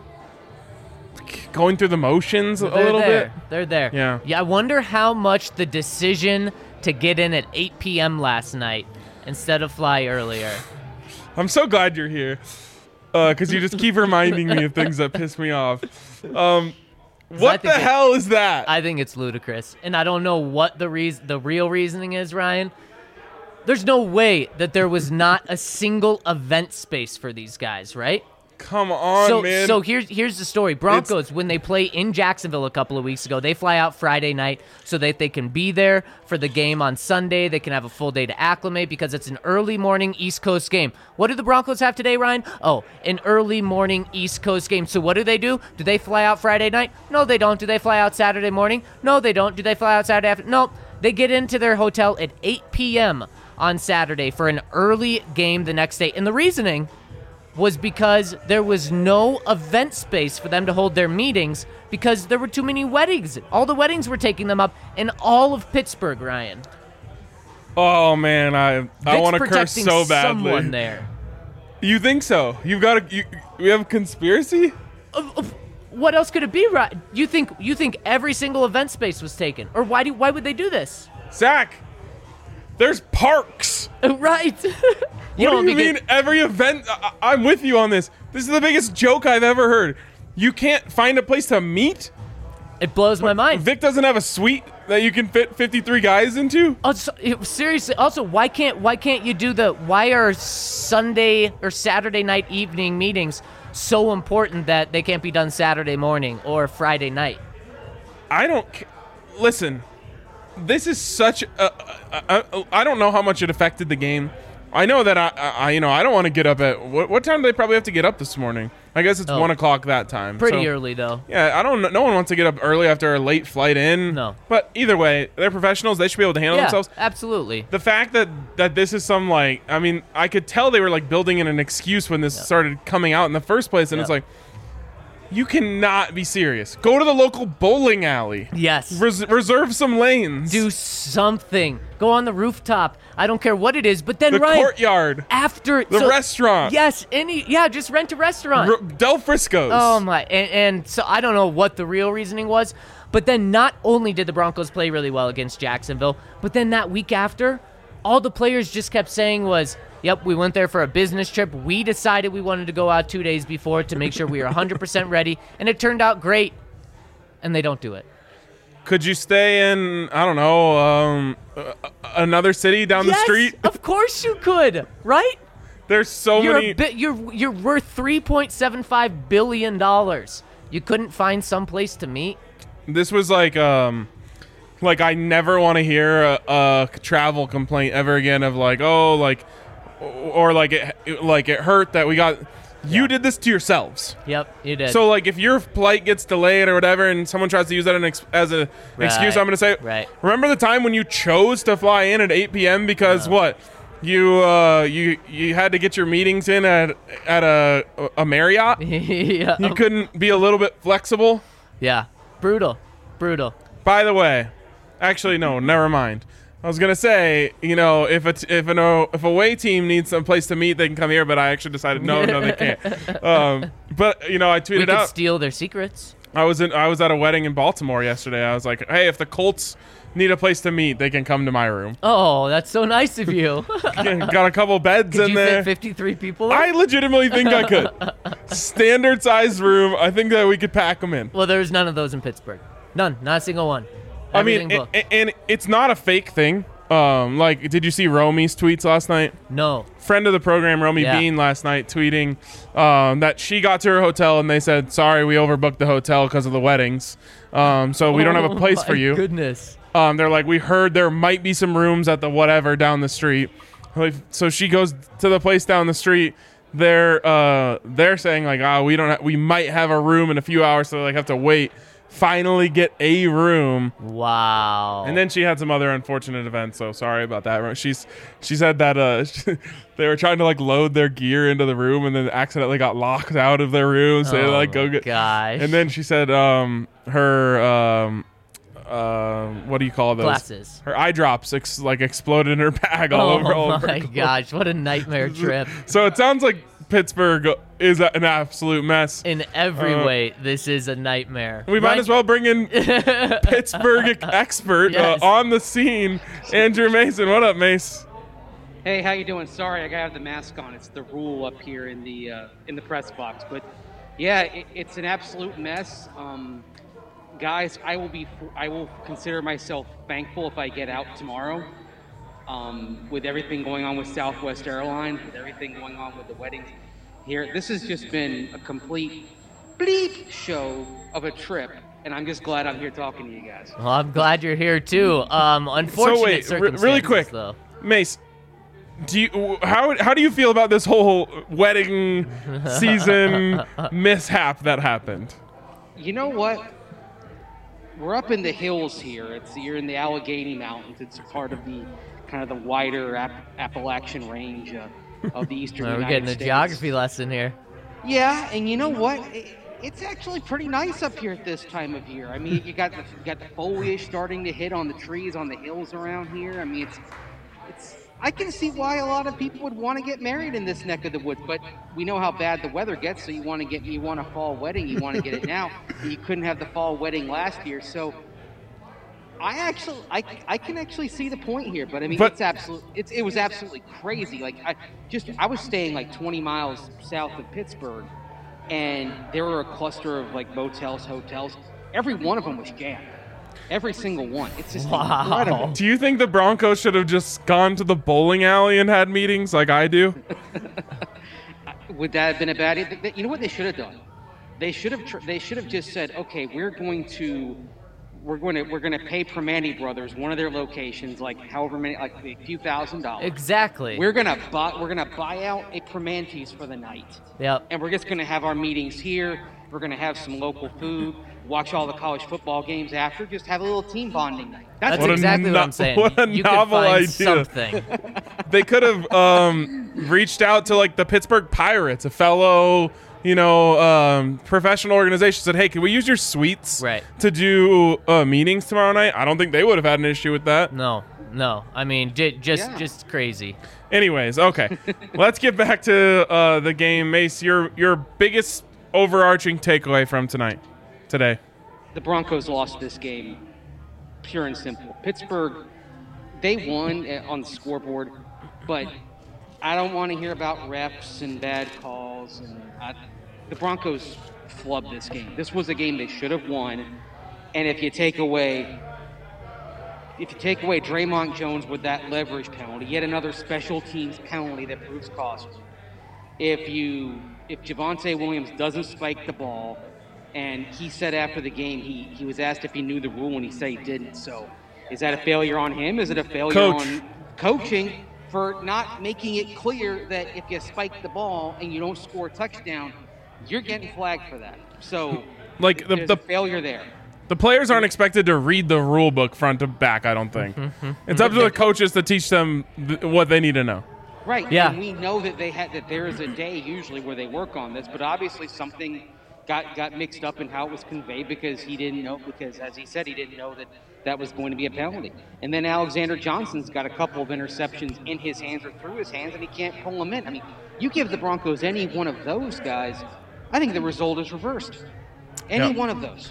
going through the motions a little bit.
They're there. Yeah. I wonder how much the decision to get in at 8 p.m. last night instead of fly earlier.
I'm so glad you're here because you just keep reminding me of things that piss me off. What the hell is that?
I think it's ludicrous, and I don't know what the real reasoning is, Ryan. There's no way that there was not a single event space for these guys, right?
Come on, man.
So here's the story. Broncos, when they play in Jacksonville a couple of weeks ago, they fly out Friday night so that they can be there for the game on Sunday. They can have a full day to acclimate because it's an early morning East Coast game. What do the Broncos have today, Ryan? Oh, an early morning East Coast game. So what do? Do they fly out Friday night? No, they don't. Do they fly out Saturday morning? No, they don't. Do they fly out Saturday afternoon? No. They get into their hotel at 8 p.m. on Saturday for an early game the next day. And the reasoning was because there was no event space for them to hold their meetings because there were too many weddings. All the weddings were taking them up in all of Pittsburgh, Ryan.
Oh, man, I want to curse so badly.
Someone there.
You think so? We have a conspiracy?
What else could it be, Ryan? You think every single event space was taken? Or why would they do this?
Zach, There's parks.
Right.
What do you mean every event? I'm with you on this. This is the biggest joke I've ever heard. You can't find a place to meet?
It blows my mind.
Vic doesn't have a suite that you can fit 53 guys into?
Also, seriously, also, why can't you do why are Sunday or Saturday night evening meetings so important that they can't be done Saturday morning or Friday night?
Listen, this is such I don't know how much it affected the game. I know that I don't want to get up at what time do they probably have to get up this morning? I guess it's 1 o'clock that time.
Pretty early though.
Yeah, no one wants to get up early after a late flight in.
No.
But either way, they're professionals. They should be able to handle themselves.
Absolutely.
The fact that this is some I could tell they were building in an excuse when this started coming out in the first place, and it's like, you cannot be serious. Go to the local bowling alley.
Yes.
Reserve some lanes.
Do something. Go on the rooftop. I don't care what it is, but then
the courtyard.
After
the restaurant.
Yes, just rent a restaurant.
Del Frisco's.
Oh my! And so I don't know what the real reasoning was, but then not only did the Broncos play really well against Jacksonville, but then that week after, all the players just kept saying was, yep, we went there for a business trip. We decided we wanted to go out 2 days before to make sure we were 100% ready, and it turned out great. And they don't do it.
Could you stay in, I don't know, another city down the street?
Of course you could, right?
There's so many.
You're worth $3.75 billion. You couldn't find some place to meet?
This was like I never want to hear a travel complaint ever again of it hurt that we got. You did this to yourselves.
Yep, you did.
So if your flight gets delayed or whatever, and someone tries to use that as an excuse, I'm going to say, remember the time when you chose to fly in at 8 p.m. because you had to get your meetings in at a Marriott?
Yeah.
You couldn't be a little bit flexible?
Yeah, brutal.
By the way, actually no, never mind. I was gonna say, if a away team needs some place to meet, they can come here. But I actually decided no, they can't. But I tweeted
we could
out.
Steal their secrets.
I was at a wedding in Baltimore yesterday. I was like, hey, if the Colts need a place to meet, they can come to my room.
Oh, that's so nice of you.
Got a couple beds in there.
Could you fit 53 people in?
I legitimately think I could. Standard sized room. I think that we could pack them in.
Well, there's none of those in Pittsburgh. None. Not a single one.
I mean, and it's not a fake thing. Did you see Romy's tweets last night?
No.
Friend of the program, Romy Bean, last night tweeting that she got to her hotel and they said, sorry, we overbooked the hotel because of the weddings. So we don't have a place for you.
Goodness.
They're like, we heard there might be some rooms at the whatever down the street. So she goes to the place down the street. They're saying we might have a room in a few hours, so they have to wait. Finally get a room.
Wow.
And then she had some other unfortunate events, so sorry about that. She said that they were trying to load their gear into the room and then accidentally got locked out of their room, so they go get.
Gosh.
And then she said her what do you call those?
Glasses.
Her eye drops exploded in her bag all over.
Oh my gosh, what a nightmare trip.
So it sounds like Pittsburgh is an absolute mess.
In every way, this is a nightmare.
We might as well bring in Pittsburgh expert on the scene, Andrew Mason. What up, Mace?
Hey, how you doing? Sorry, I gotta have the mask on. It's the rule up here in the press box. But yeah, it's an absolute mess. Guys, I will consider myself thankful if I get out tomorrow. With everything going on with Southwest Airlines, with everything going on with the weddings here, this has just been a complete bleep show of a trip, and I'm just glad I'm here talking to you guys.
Well, I'm glad you're here too. Unfortunate circumstances,
really quick,
though.
Mace, how do you feel about this whole wedding season mishap that happened?
You know what? We're up in the hills here. You're in the Allegheny Mountains. It's part of the kind of the wider Appalachian range of the eastern United States.
We're getting a geography lesson here.
Yeah, and you know what? It's actually pretty nice up here at this time of year. I mean, you got the foliage starting to hit on the trees on the hills around here. I mean, it's. I can see why a lot of people would want to get married in this neck of the woods, but we know how bad the weather gets. So you want a fall wedding, you want to get it now. You couldn't have the fall wedding last year, so I can actually see the point here, but I mean,
But-
it was absolutely crazy. Like I was staying like 20 miles south of Pittsburgh, and there were a cluster of like motels, hotels. Every one of them was jammed. Every single one. It's just incredible.
Do you think the Broncos should have just gone to the bowling alley and had meetings like I do?
Would that have been a bad idea? You know what they should have done? They should have just said, okay, we're going to pay Primanti Brothers, one of their locations, like however many, like a few $1,000s.
Exactly.
We're gonna buy out a Primanti's for the night.
Yep.
And we're just gonna have our meetings here. We're gonna have some local food. Watch all the college football games after. Just have a little team bonding night.
That's
What a
exactly what
no-
I'm saying.
what a
you
novel
could find
idea.
something.
They could have reached out to like the Pittsburgh Pirates, a fellow, professional organization, said, "Hey, can we use your suites
Right.
to do meetings tomorrow night?" I don't think they would have had an issue with that.
No. I mean, just crazy.
Anyways, okay, let's get back to the game. Mace, your biggest overarching takeaway from today.
The Broncos lost this game, pure and simple. Pittsburgh, they won on the scoreboard, but I don't want to hear about refs and bad calls. And the Broncos flubbed this game. This was a game they should have won. And if you take away Draymond Jones with that leverage penalty, yet another special teams penalty that proves costly. If Javonte Williams doesn't spike the ball, and he said after the game he was asked if he knew the rule and he said he didn't. So is that a failure on him? Is it a failure on coaching for not making it clear that if you spike the ball and you don't score a touchdown, you're getting flagged for that? So
Like
there's a failure there.
the players aren't expected to read the rule book front to back. I don't think it's up to the coaches to teach them what they need to know.
Right.
Yeah.
And we know that there is a day usually where they work on this, but obviously something got mixed up in how it was conveyed because he didn't know, because as he said, he didn't know that was going to be a penalty. And then Alexander Johnson's got a couple of interceptions in his hands or through his hands, and he can't pull them in. I mean, you give the Broncos any one of those guys, I think the result is reversed. Any one of those.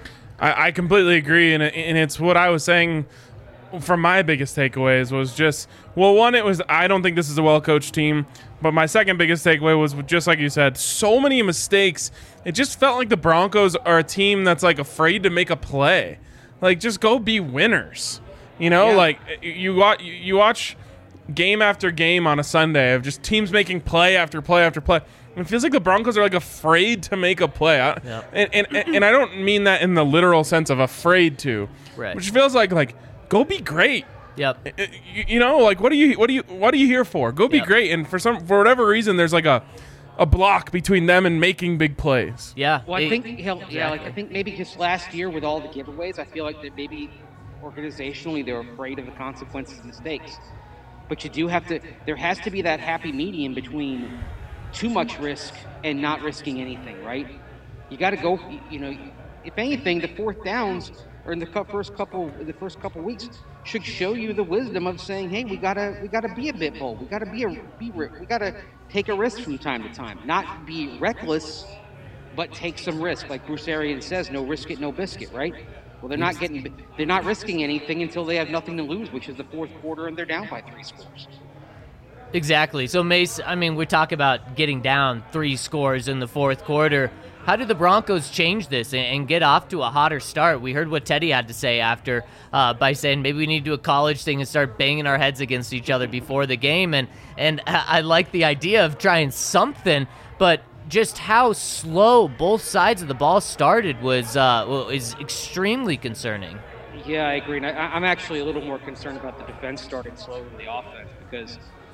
I completely agree, and it's what I was saying. From my biggest takeaways was just, well, one, it was I don't think this is a well-coached team, but my second biggest takeaway was just like you said, so many mistakes. It just felt like the Broncos are a team that's like afraid to make a play. Like, just go be winners. Like you watch game after game on a Sunday of just teams making play after play after play. It feels like the Broncos are like afraid to make a play. And I don't mean that in the literal sense of afraid to,
Right.
which feels like go be great.
Yep.
Like what are you here for? Go be
Yep.
great. And for whatever reason, there's like a block between them and making big plays.
Yeah.
Well, I think I think maybe just last year with all the giveaways, I feel like that maybe organizationally they're afraid of the consequences of mistakes. But there has to be that happy medium between too much risk and not risking anything, right? You got to go. If anything, the fourth downs or in the first couple weeks should show you the wisdom of saying, hey, we gotta be a bit bold. We gotta we gotta take a risk from time to time, not be reckless, but take some risk. Like Bruce Arians says, no risk it, no biscuit, right? Well, they're not risking anything until they have nothing to lose, which is the fourth quarter, and they're down by 3 scores.
Exactly. So, Mace, I mean, we talk about getting down 3 scores in the fourth quarter. How did the Broncos change this and get off to a hotter start? We heard what Teddy had to say after by saying maybe we need to do a college thing and start banging our heads against each other before the game. And I like the idea of trying something, but just how slow both sides of the ball started is extremely concerning.
Yeah, I agree. And I'm actually a little more concerned about the defense starting slow than the offense because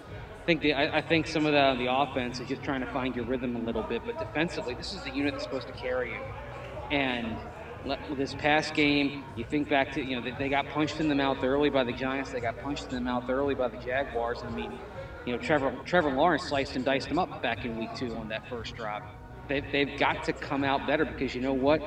I think some of the offense is just trying to find your rhythm a little bit, but defensively, this is the unit that's supposed to carry you. And this past game, you think back to they got punched in the mouth early by the Giants, they got punched in the mouth early by the Jaguars. I mean, Trevor Lawrence sliced and diced them up back in week 2 on that first drive. They've got to come out better because you know what?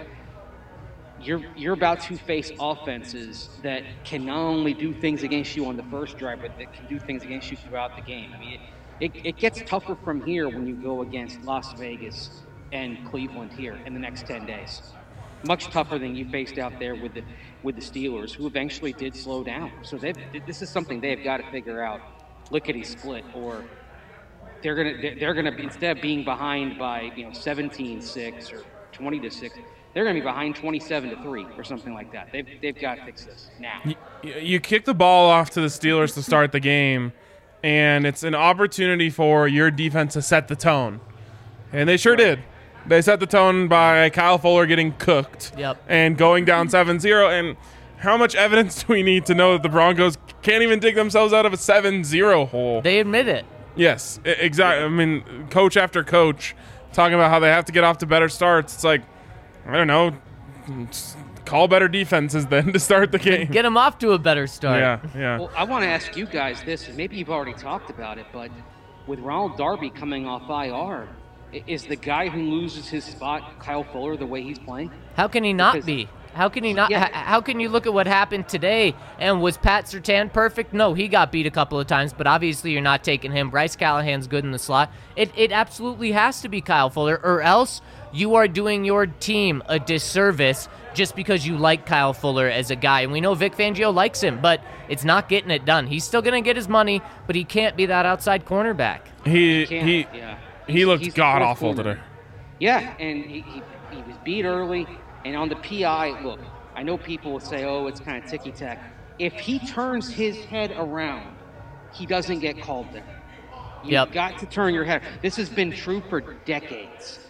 You're about to face offenses that can not only do things against you on the first drive, but that can do things against you throughout the game. I mean, it gets tougher from here when you go against Las Vegas and Cleveland here in the next 10 days. Much tougher than you faced out there with with the Steelers, who eventually did slow down. So this is something they've got to figure out. Lickety split, or they're gonna be, instead of being behind by 17-6 or 20-6, they're gonna be behind 27-3 or something like that. They've got to fix this now.
You kick the ball off to the Steelers to start the game, and it's an opportunity for your defense to set the tone, and they sure did. They set the tone by Kyle Fuller getting cooked and going down 7-0. And how much evidence do we need to know that the Broncos can't even dig themselves out of a 7-0 hole?
They admit it.
Yes, exactly. I mean, coach after coach talking about how they have to get off to better starts. It's like, I don't know, call better defenses then to start the game.
Get them off to a better start.
Yeah.
Well, I want to ask you guys this, and maybe you've already talked about it, but with Ronald Darby coming off IR, is the guy who loses his spot Kyle Fuller the way he's playing?
How can he not be? How can he not?
Yeah.
How can you look at what happened today? And was Pat Surtain perfect? No, he got beat a couple of times, but obviously you're not taking him. Bryce Callahan's good in the slot. It absolutely has to be Kyle Fuller, or else you are doing your team a disservice just because you like Kyle Fuller as a guy. And we know Vic Fangio likes him, but it's not getting it done. He's still going to get his money, but he can't be that outside cornerback.
He looked god-awful today.
Yeah, and he was beat early. And on the PI, look, I know people will say, oh, it's kind of ticky-tack. If he turns his head around, he doesn't get called there. You've got to turn your head. This has been true for decades.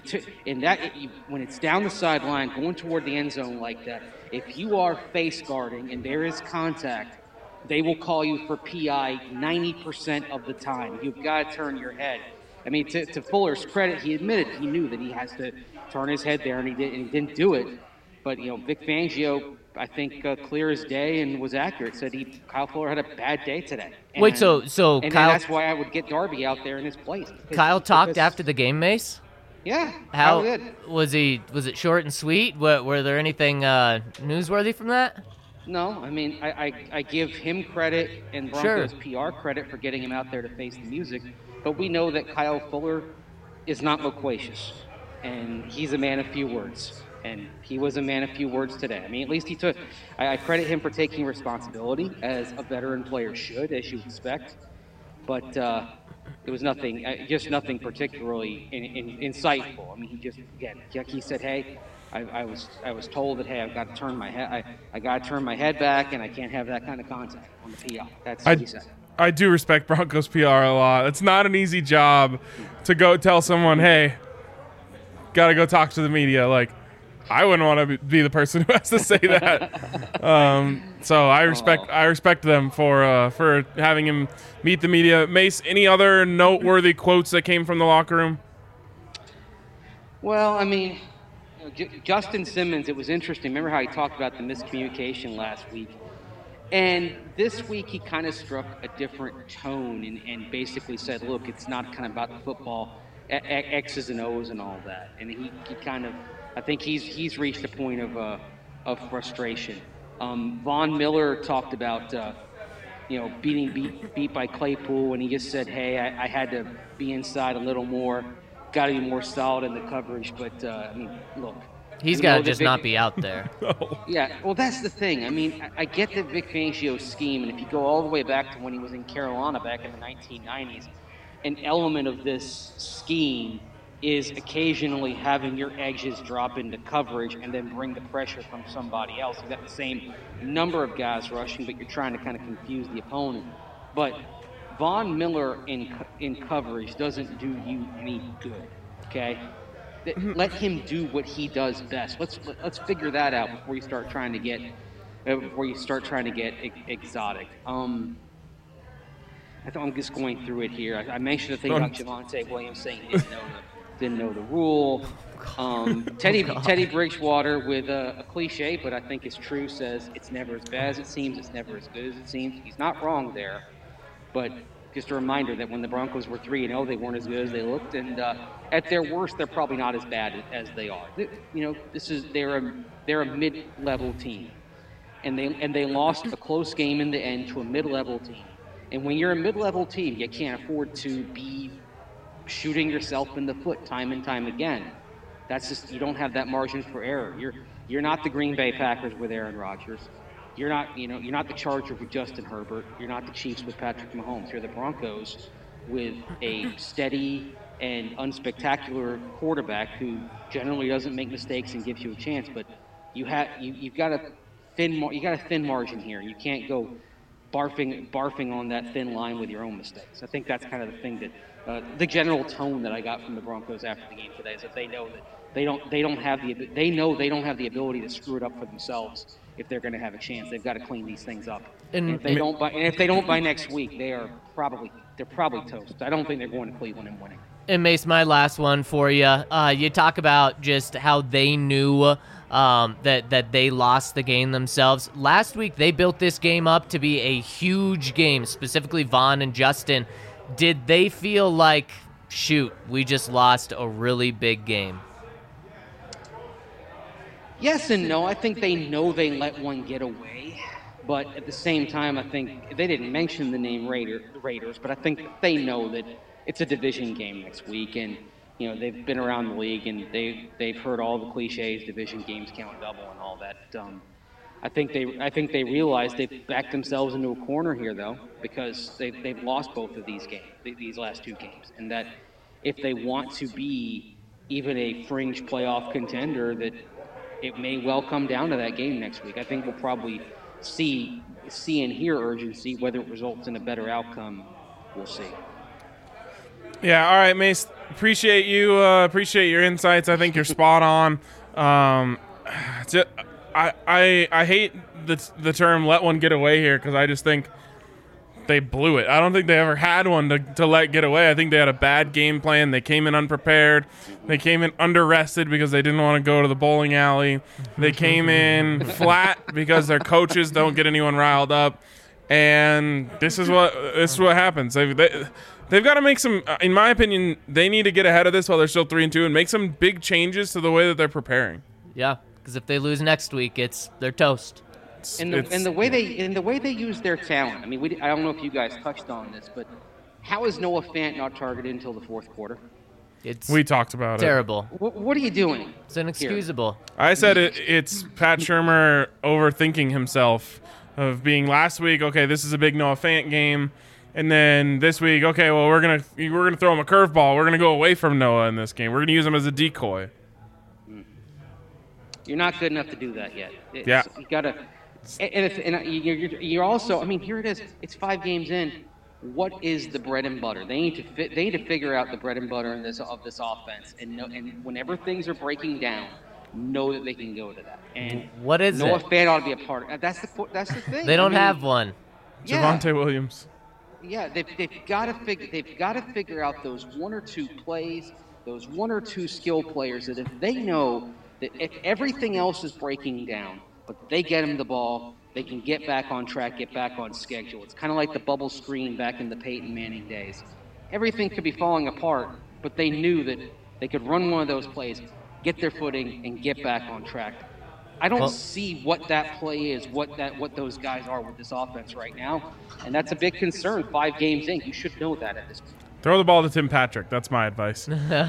When it's down the sideline, going toward the end zone like that, if you are face guarding and there is contact, they will call you for PI 90% of the time. You've got to turn your head. I mean, to Fuller's credit, he admitted he knew that he has to turn his head there, and he didn't do it. But Vic Fangio, I think, clear as day and was accurate, said Kyle Fuller had a bad day today. And,
Wait, so
and
Kyle?
That's why I would get Darby out there in his place.
Kyle talked after the game, Mace.
Yeah.
How
did.
was he? Was it short and sweet? Were there anything newsworthy from that?
No, I mean, I give him credit and Broncos PR credit for getting him out there to face the music, but we know that Kyle Fuller is not loquacious, and he's a man of few words, and he was a man of few words today. I mean, at least he took. I credit him for taking responsibility, as a veteran player should, as you expect, but it was nothing, just nothing particularly insightful. I mean, he just, again, like he said, hey, I was told that, hey, I've got to turn my head. I got to turn my head back, and I can't have that kind of contact on the PI. That's what he said.
I do respect Broncos PR a lot. It's not an easy job to go tell someone, hey, got to go talk to the media. Like, I wouldn't want to be the person who has to say that. So I respect them for having him meet the media. Mace, any other noteworthy quotes that came from the locker room?
Well, I mean, Justin Simmons, it was interesting. Remember how he talked about the miscommunication last week? And this week he kind of struck a different tone and basically said, look, it's not kind of about the football, X's and O's and all that. And he kind of, I think he's reached a point of frustration. Von Miller talked about, being beat by Claypool, and he just said, hey, I had to be inside a little more, got to be more solid in the coverage. But, I mean, look.
He's got to just not be out there.
Yeah, well, that's the thing. I mean, I get the Vic Fangio scheme, and if you go all the way back to when he was in Carolina back in the 1990s, an element of this scheme is occasionally having your edges drop into coverage and then bring the pressure from somebody else. You've got the same number of guys rushing, but you're trying to kind of confuse the opponent. But Von Miller in coverage doesn't do you any good, okay? Let him do what he does best. Let's figure that out before you start trying to get exotic. I'm just going through it here. I mentioned the thing about Javonte Williams saying he didn't know the rule. Teddy Bridgewater with a cliche, but I think it's true, says it's never as bad as it seems. It's never as good as it seems. He's not wrong there, but just a reminder that when the Broncos were 3-0, they weren't as good as they looked, and at their worst, they're probably not as bad as they are. They're a mid-level team, and they lost a close game in the end to a mid-level team. And when you're a mid-level team, you can't afford to be shooting yourself in the foot time and time again. That's just, you don't have that margin for error. You're not the Green Bay Packers with Aaron Rodgers. You're not the Chargers with Justin Herbert. You're not the Chiefs with Patrick Mahomes. You're the Broncos with a steady and unspectacular quarterback who generally doesn't make mistakes and gives you a chance. But you've got a thin margin here. You can't go barfing on that thin line with your own mistakes. I think that's kind of the thing that the general tone that I got from the Broncos after the game today is that they know that they don't have the ability to screw it up for themselves if they're going to have a chance. They've got to clean these things up. And if they don't by next week, they're probably toast. I don't think they're going to Cleveland and winning.
And Mace, my last one for you. You talk about just how they knew that they lost the game themselves. Last week, they built this game up to be a huge game, specifically Vaughn and Justin. Did they feel like, shoot, we just lost a really big game?
Yes and no. I think they know they let one get away. But at the same time, I think they didn't mention the name Raiders, but I think they know that it's a division game next week, and they've been around the league and they've heard all the cliches, division games count double and all that. I think they realize they've backed themselves into a corner here though, because they've lost both of these games, these last two games, and that if they want to be even a fringe playoff contender, that it may well come down to that game next week. I think we'll probably see and hear urgency. Whether it results in a better outcome, we'll see.
Yeah, all right, Mace. Appreciate you. Appreciate your insights. I think you're spot on. I hate the term "let one get away" here because I just think they blew it. I don't think they ever had one to let get away. I think they had a bad game plan. They came in unprepared. They came in under-rested because they didn't want to go to the bowling alley. They came in flat because their coaches don't get anyone riled up. And this is what happens. They've got to make some, in my opinion, they need to get ahead of this while they're still 3-2 and make some big changes to the way that they're preparing.
Yeah, because if they lose next week, they're toast.
And the way they use their talent. I mean, I don't know if you guys touched on this, but how is Noah Fant not targeted until the fourth quarter?
We talked about
terrible.
What are you doing?
It's inexcusable.
Here? I said it's Pat Shurmur overthinking himself, of being last week, okay, this is a big Noah Fant game, and then this week, okay, well, we're gonna throw him a curveball. We're gonna go away from Noah in this game. We're gonna use him as a decoy.
You're not good enough to do that yet.
Yeah,
you gotta. And you're also. I mean, here it is. It's 5 games in. What is the bread and butter? They need to figure out the bread and butter of this offense, and whenever things are breaking down, know that they can go to that. And
what is
Noah
it?
Fant ought to be a part of it. That's the thing.
They don't have one.
Yeah.
Javonte Williams.
Yeah, they've got to figure out those 1 or 2 plays, those 1 or 2 skill players that if they know that if everything else is breaking down, but they get them the ball, they can get back on track, get back on schedule. It's kind of like the bubble screen back in the Peyton Manning days. Everything could be falling apart, but they knew that they could run one of those plays, get their footing, and get back on track. I don't see what that play is, what those guys are with this offense right now, and that's a big concern. 5 games in, you should know that at this point.
Throw the ball to Tim Patrick. That's my advice.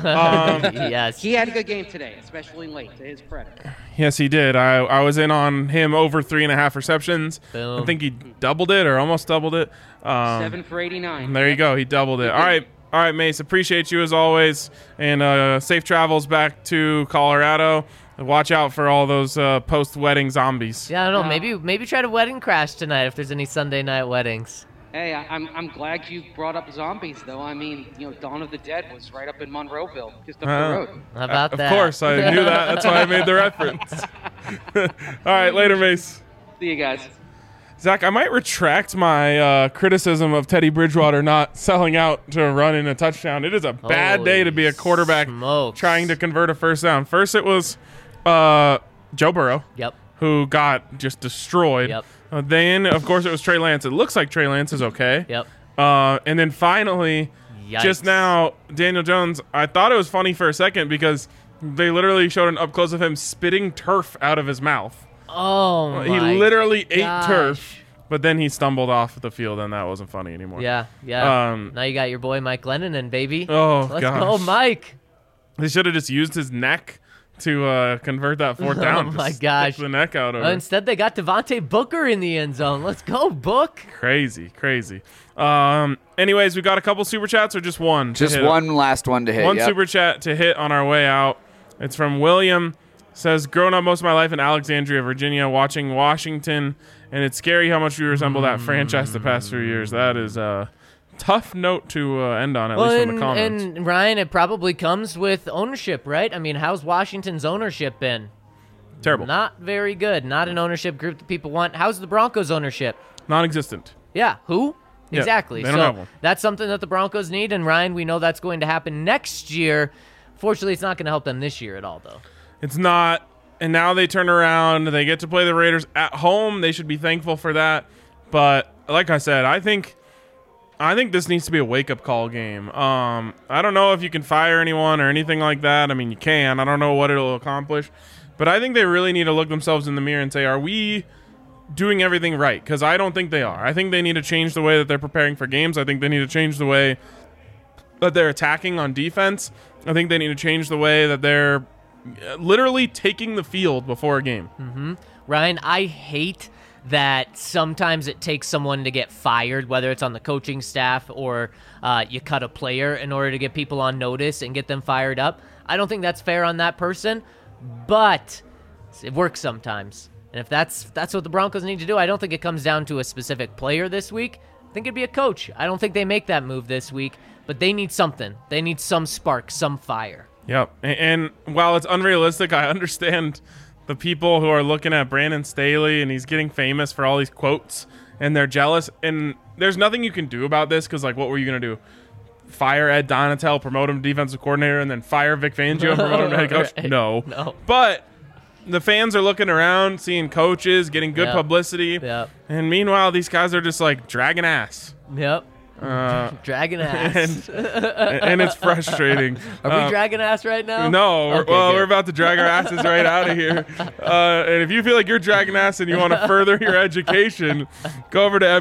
Yes.
He had a good game today, especially late, to his credit.
Yes, he did. I was in on him over 3.5 receptions.
Boom.
I think he doubled it or almost doubled it.
7 for 89.
There you go. He doubled it. All right, Mace. Appreciate you as always, and safe travels back to Colorado. Watch out for all those post-wedding zombies.
Yeah, I don't know. Maybe try to wedding crash tonight if there's any Sunday night weddings.
Hey, I'm glad you brought up zombies, though. I mean, Dawn of the Dead was right up in Monroeville, just up the road.
How about that?
Of course, I knew that. That's why I made the reference. All right, later, Mace.
See you guys.
Zach, I might retract my criticism of Teddy Bridgewater not selling out to run in a touchdown. It is a bad day to be a quarterback trying to convert a first down. First, it was Joe Burrow.
Yep.
Who got just destroyed.
Yep.
Then, of course, it was Trey Lance. It looks like Trey Lance is okay.
Yep.
And then finally, just now, Daniel Jones, I thought it was funny for a second because they literally showed an up-close of him spitting turf out of his mouth.
Oh, my
He literally ate
gosh.
turf, but then he stumbled off the field, and that wasn't funny anymore.
Yeah. Now you got your boy Mike Lennon, baby.
Oh,
Let's
gosh.
go, Mike.
They should have just used his neck to convert that fourth down.
Oh
to
my
stick
gosh.
the neck out of it.
Instead, they got Devontae Booker in the end zone. Let's go, Book.
Crazy. Anyways, we got a couple super chats or just one? to
Just
hit?
one last one to hit.
One
yep.
super chat to hit on our way out. It's from William. Says, grown up most of my life in Alexandria, Virginia, watching Washington, and it's scary how much we resemble that franchise the past few years. That is a tough note to end on, at least from the comments.
And Ryan, it probably comes with ownership, right? I mean, how's Washington's ownership been?
Terrible.
Not very good. Not an ownership group that people want. How's the Broncos' ownership?
Non-existent.
Yeah, who?
Yeah,
Exactly.
they don't have one.
That's something that the Broncos need, and Ryan, we know that's going to happen next year. Fortunately, it's not going to help them this year at all, though.
It's not. And now they turn around. They get to play the Raiders at home. They should be thankful for that. But like I said, I think this needs to be a wake-up call game. I don't know if you can fire anyone or anything like that. I mean, you can. I don't know what it'll accomplish. But I think they really need to look themselves in the mirror and say, are we doing everything right? Because I don't think they are. I think they need to change the way that they're preparing for games. I think they need to change the way that they're attacking on defense. I think they need to change the way that they're literally taking the field before a game.
Ryan, I hate that sometimes it takes someone to get fired, whether it's on the coaching staff or you cut a player in order to get people on notice and get them fired up. I don't think that's fair on that person, but it works sometimes. And if that's what the Broncos need to do, I don't think it comes down to a specific player this week. I think it'd be a coach. I don't think they make that move this week, but they need something. They need some spark, some fire.
Yep. And while it's unrealistic, I understand the people who are looking at Brandon Staley and he's getting famous for all these quotes and they're jealous. And there's nothing you can do about this because, like, what were you going to do? Fire Ed Donatel, promote him to defensive coordinator, and then fire Vic Fangio and promote him to head coach?
Right.
No. But the fans are looking around, seeing coaches, getting good publicity.
Yep.
And meanwhile, these guys are just, like, dragging ass.
Yep. Dragging ass.
And it's frustrating.
Are we dragging ass right now?
No,
Okay,
we're
good.
about to drag our asses right out of here. And if you feel like you're dragging ass and you want to further your education, go over to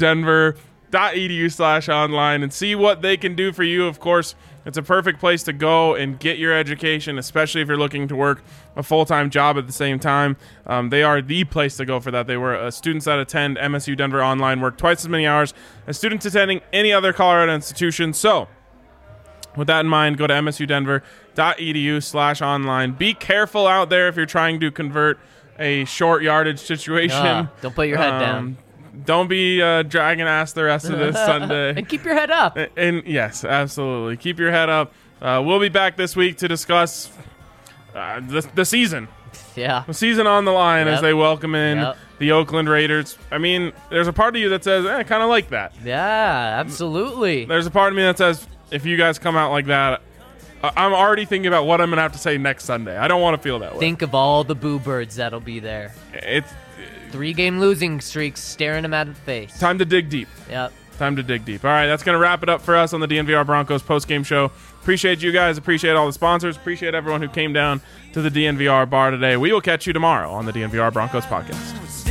msudenver.edu/online and see what they can do for you. Of course, it's a perfect place to go and get your education, especially if you're looking to work a full-time job at the same time. They are the place to go for that. They were students that attend MSU Denver Online work twice as many hours as students attending any other Colorado institution. So, with that in mind, go to msudenver.edu/online. Be careful out there if you're trying to convert a short yardage situation.
Don't put your head down.
Don't be dragging ass the rest of this Sunday.
And keep your head up.
And yes, absolutely. Keep your head up. We'll be back this week to discuss the season.
Yeah.
The season on the line as
Yep.
they welcome in
Yep.
the Oakland Raiders. I mean, there's a part of you that says, I kind of like that.
Yeah, absolutely.
There's a part of me that says, if you guys come out like that, I'm already thinking about what I'm going to have to say next Sunday. I don't want to feel that way.
Think of all the boo birds that'll be there.
It's
3-game losing streaks staring them at the face.
time to dig deep.
Yep.
Time to dig deep. All right, that's going to wrap it up for us on the DNVR Broncos postgame show. Appreciate you guys. Appreciate all the sponsors. Appreciate everyone who came down to the DNVR bar today. We will catch you tomorrow on the DNVR Broncos podcast.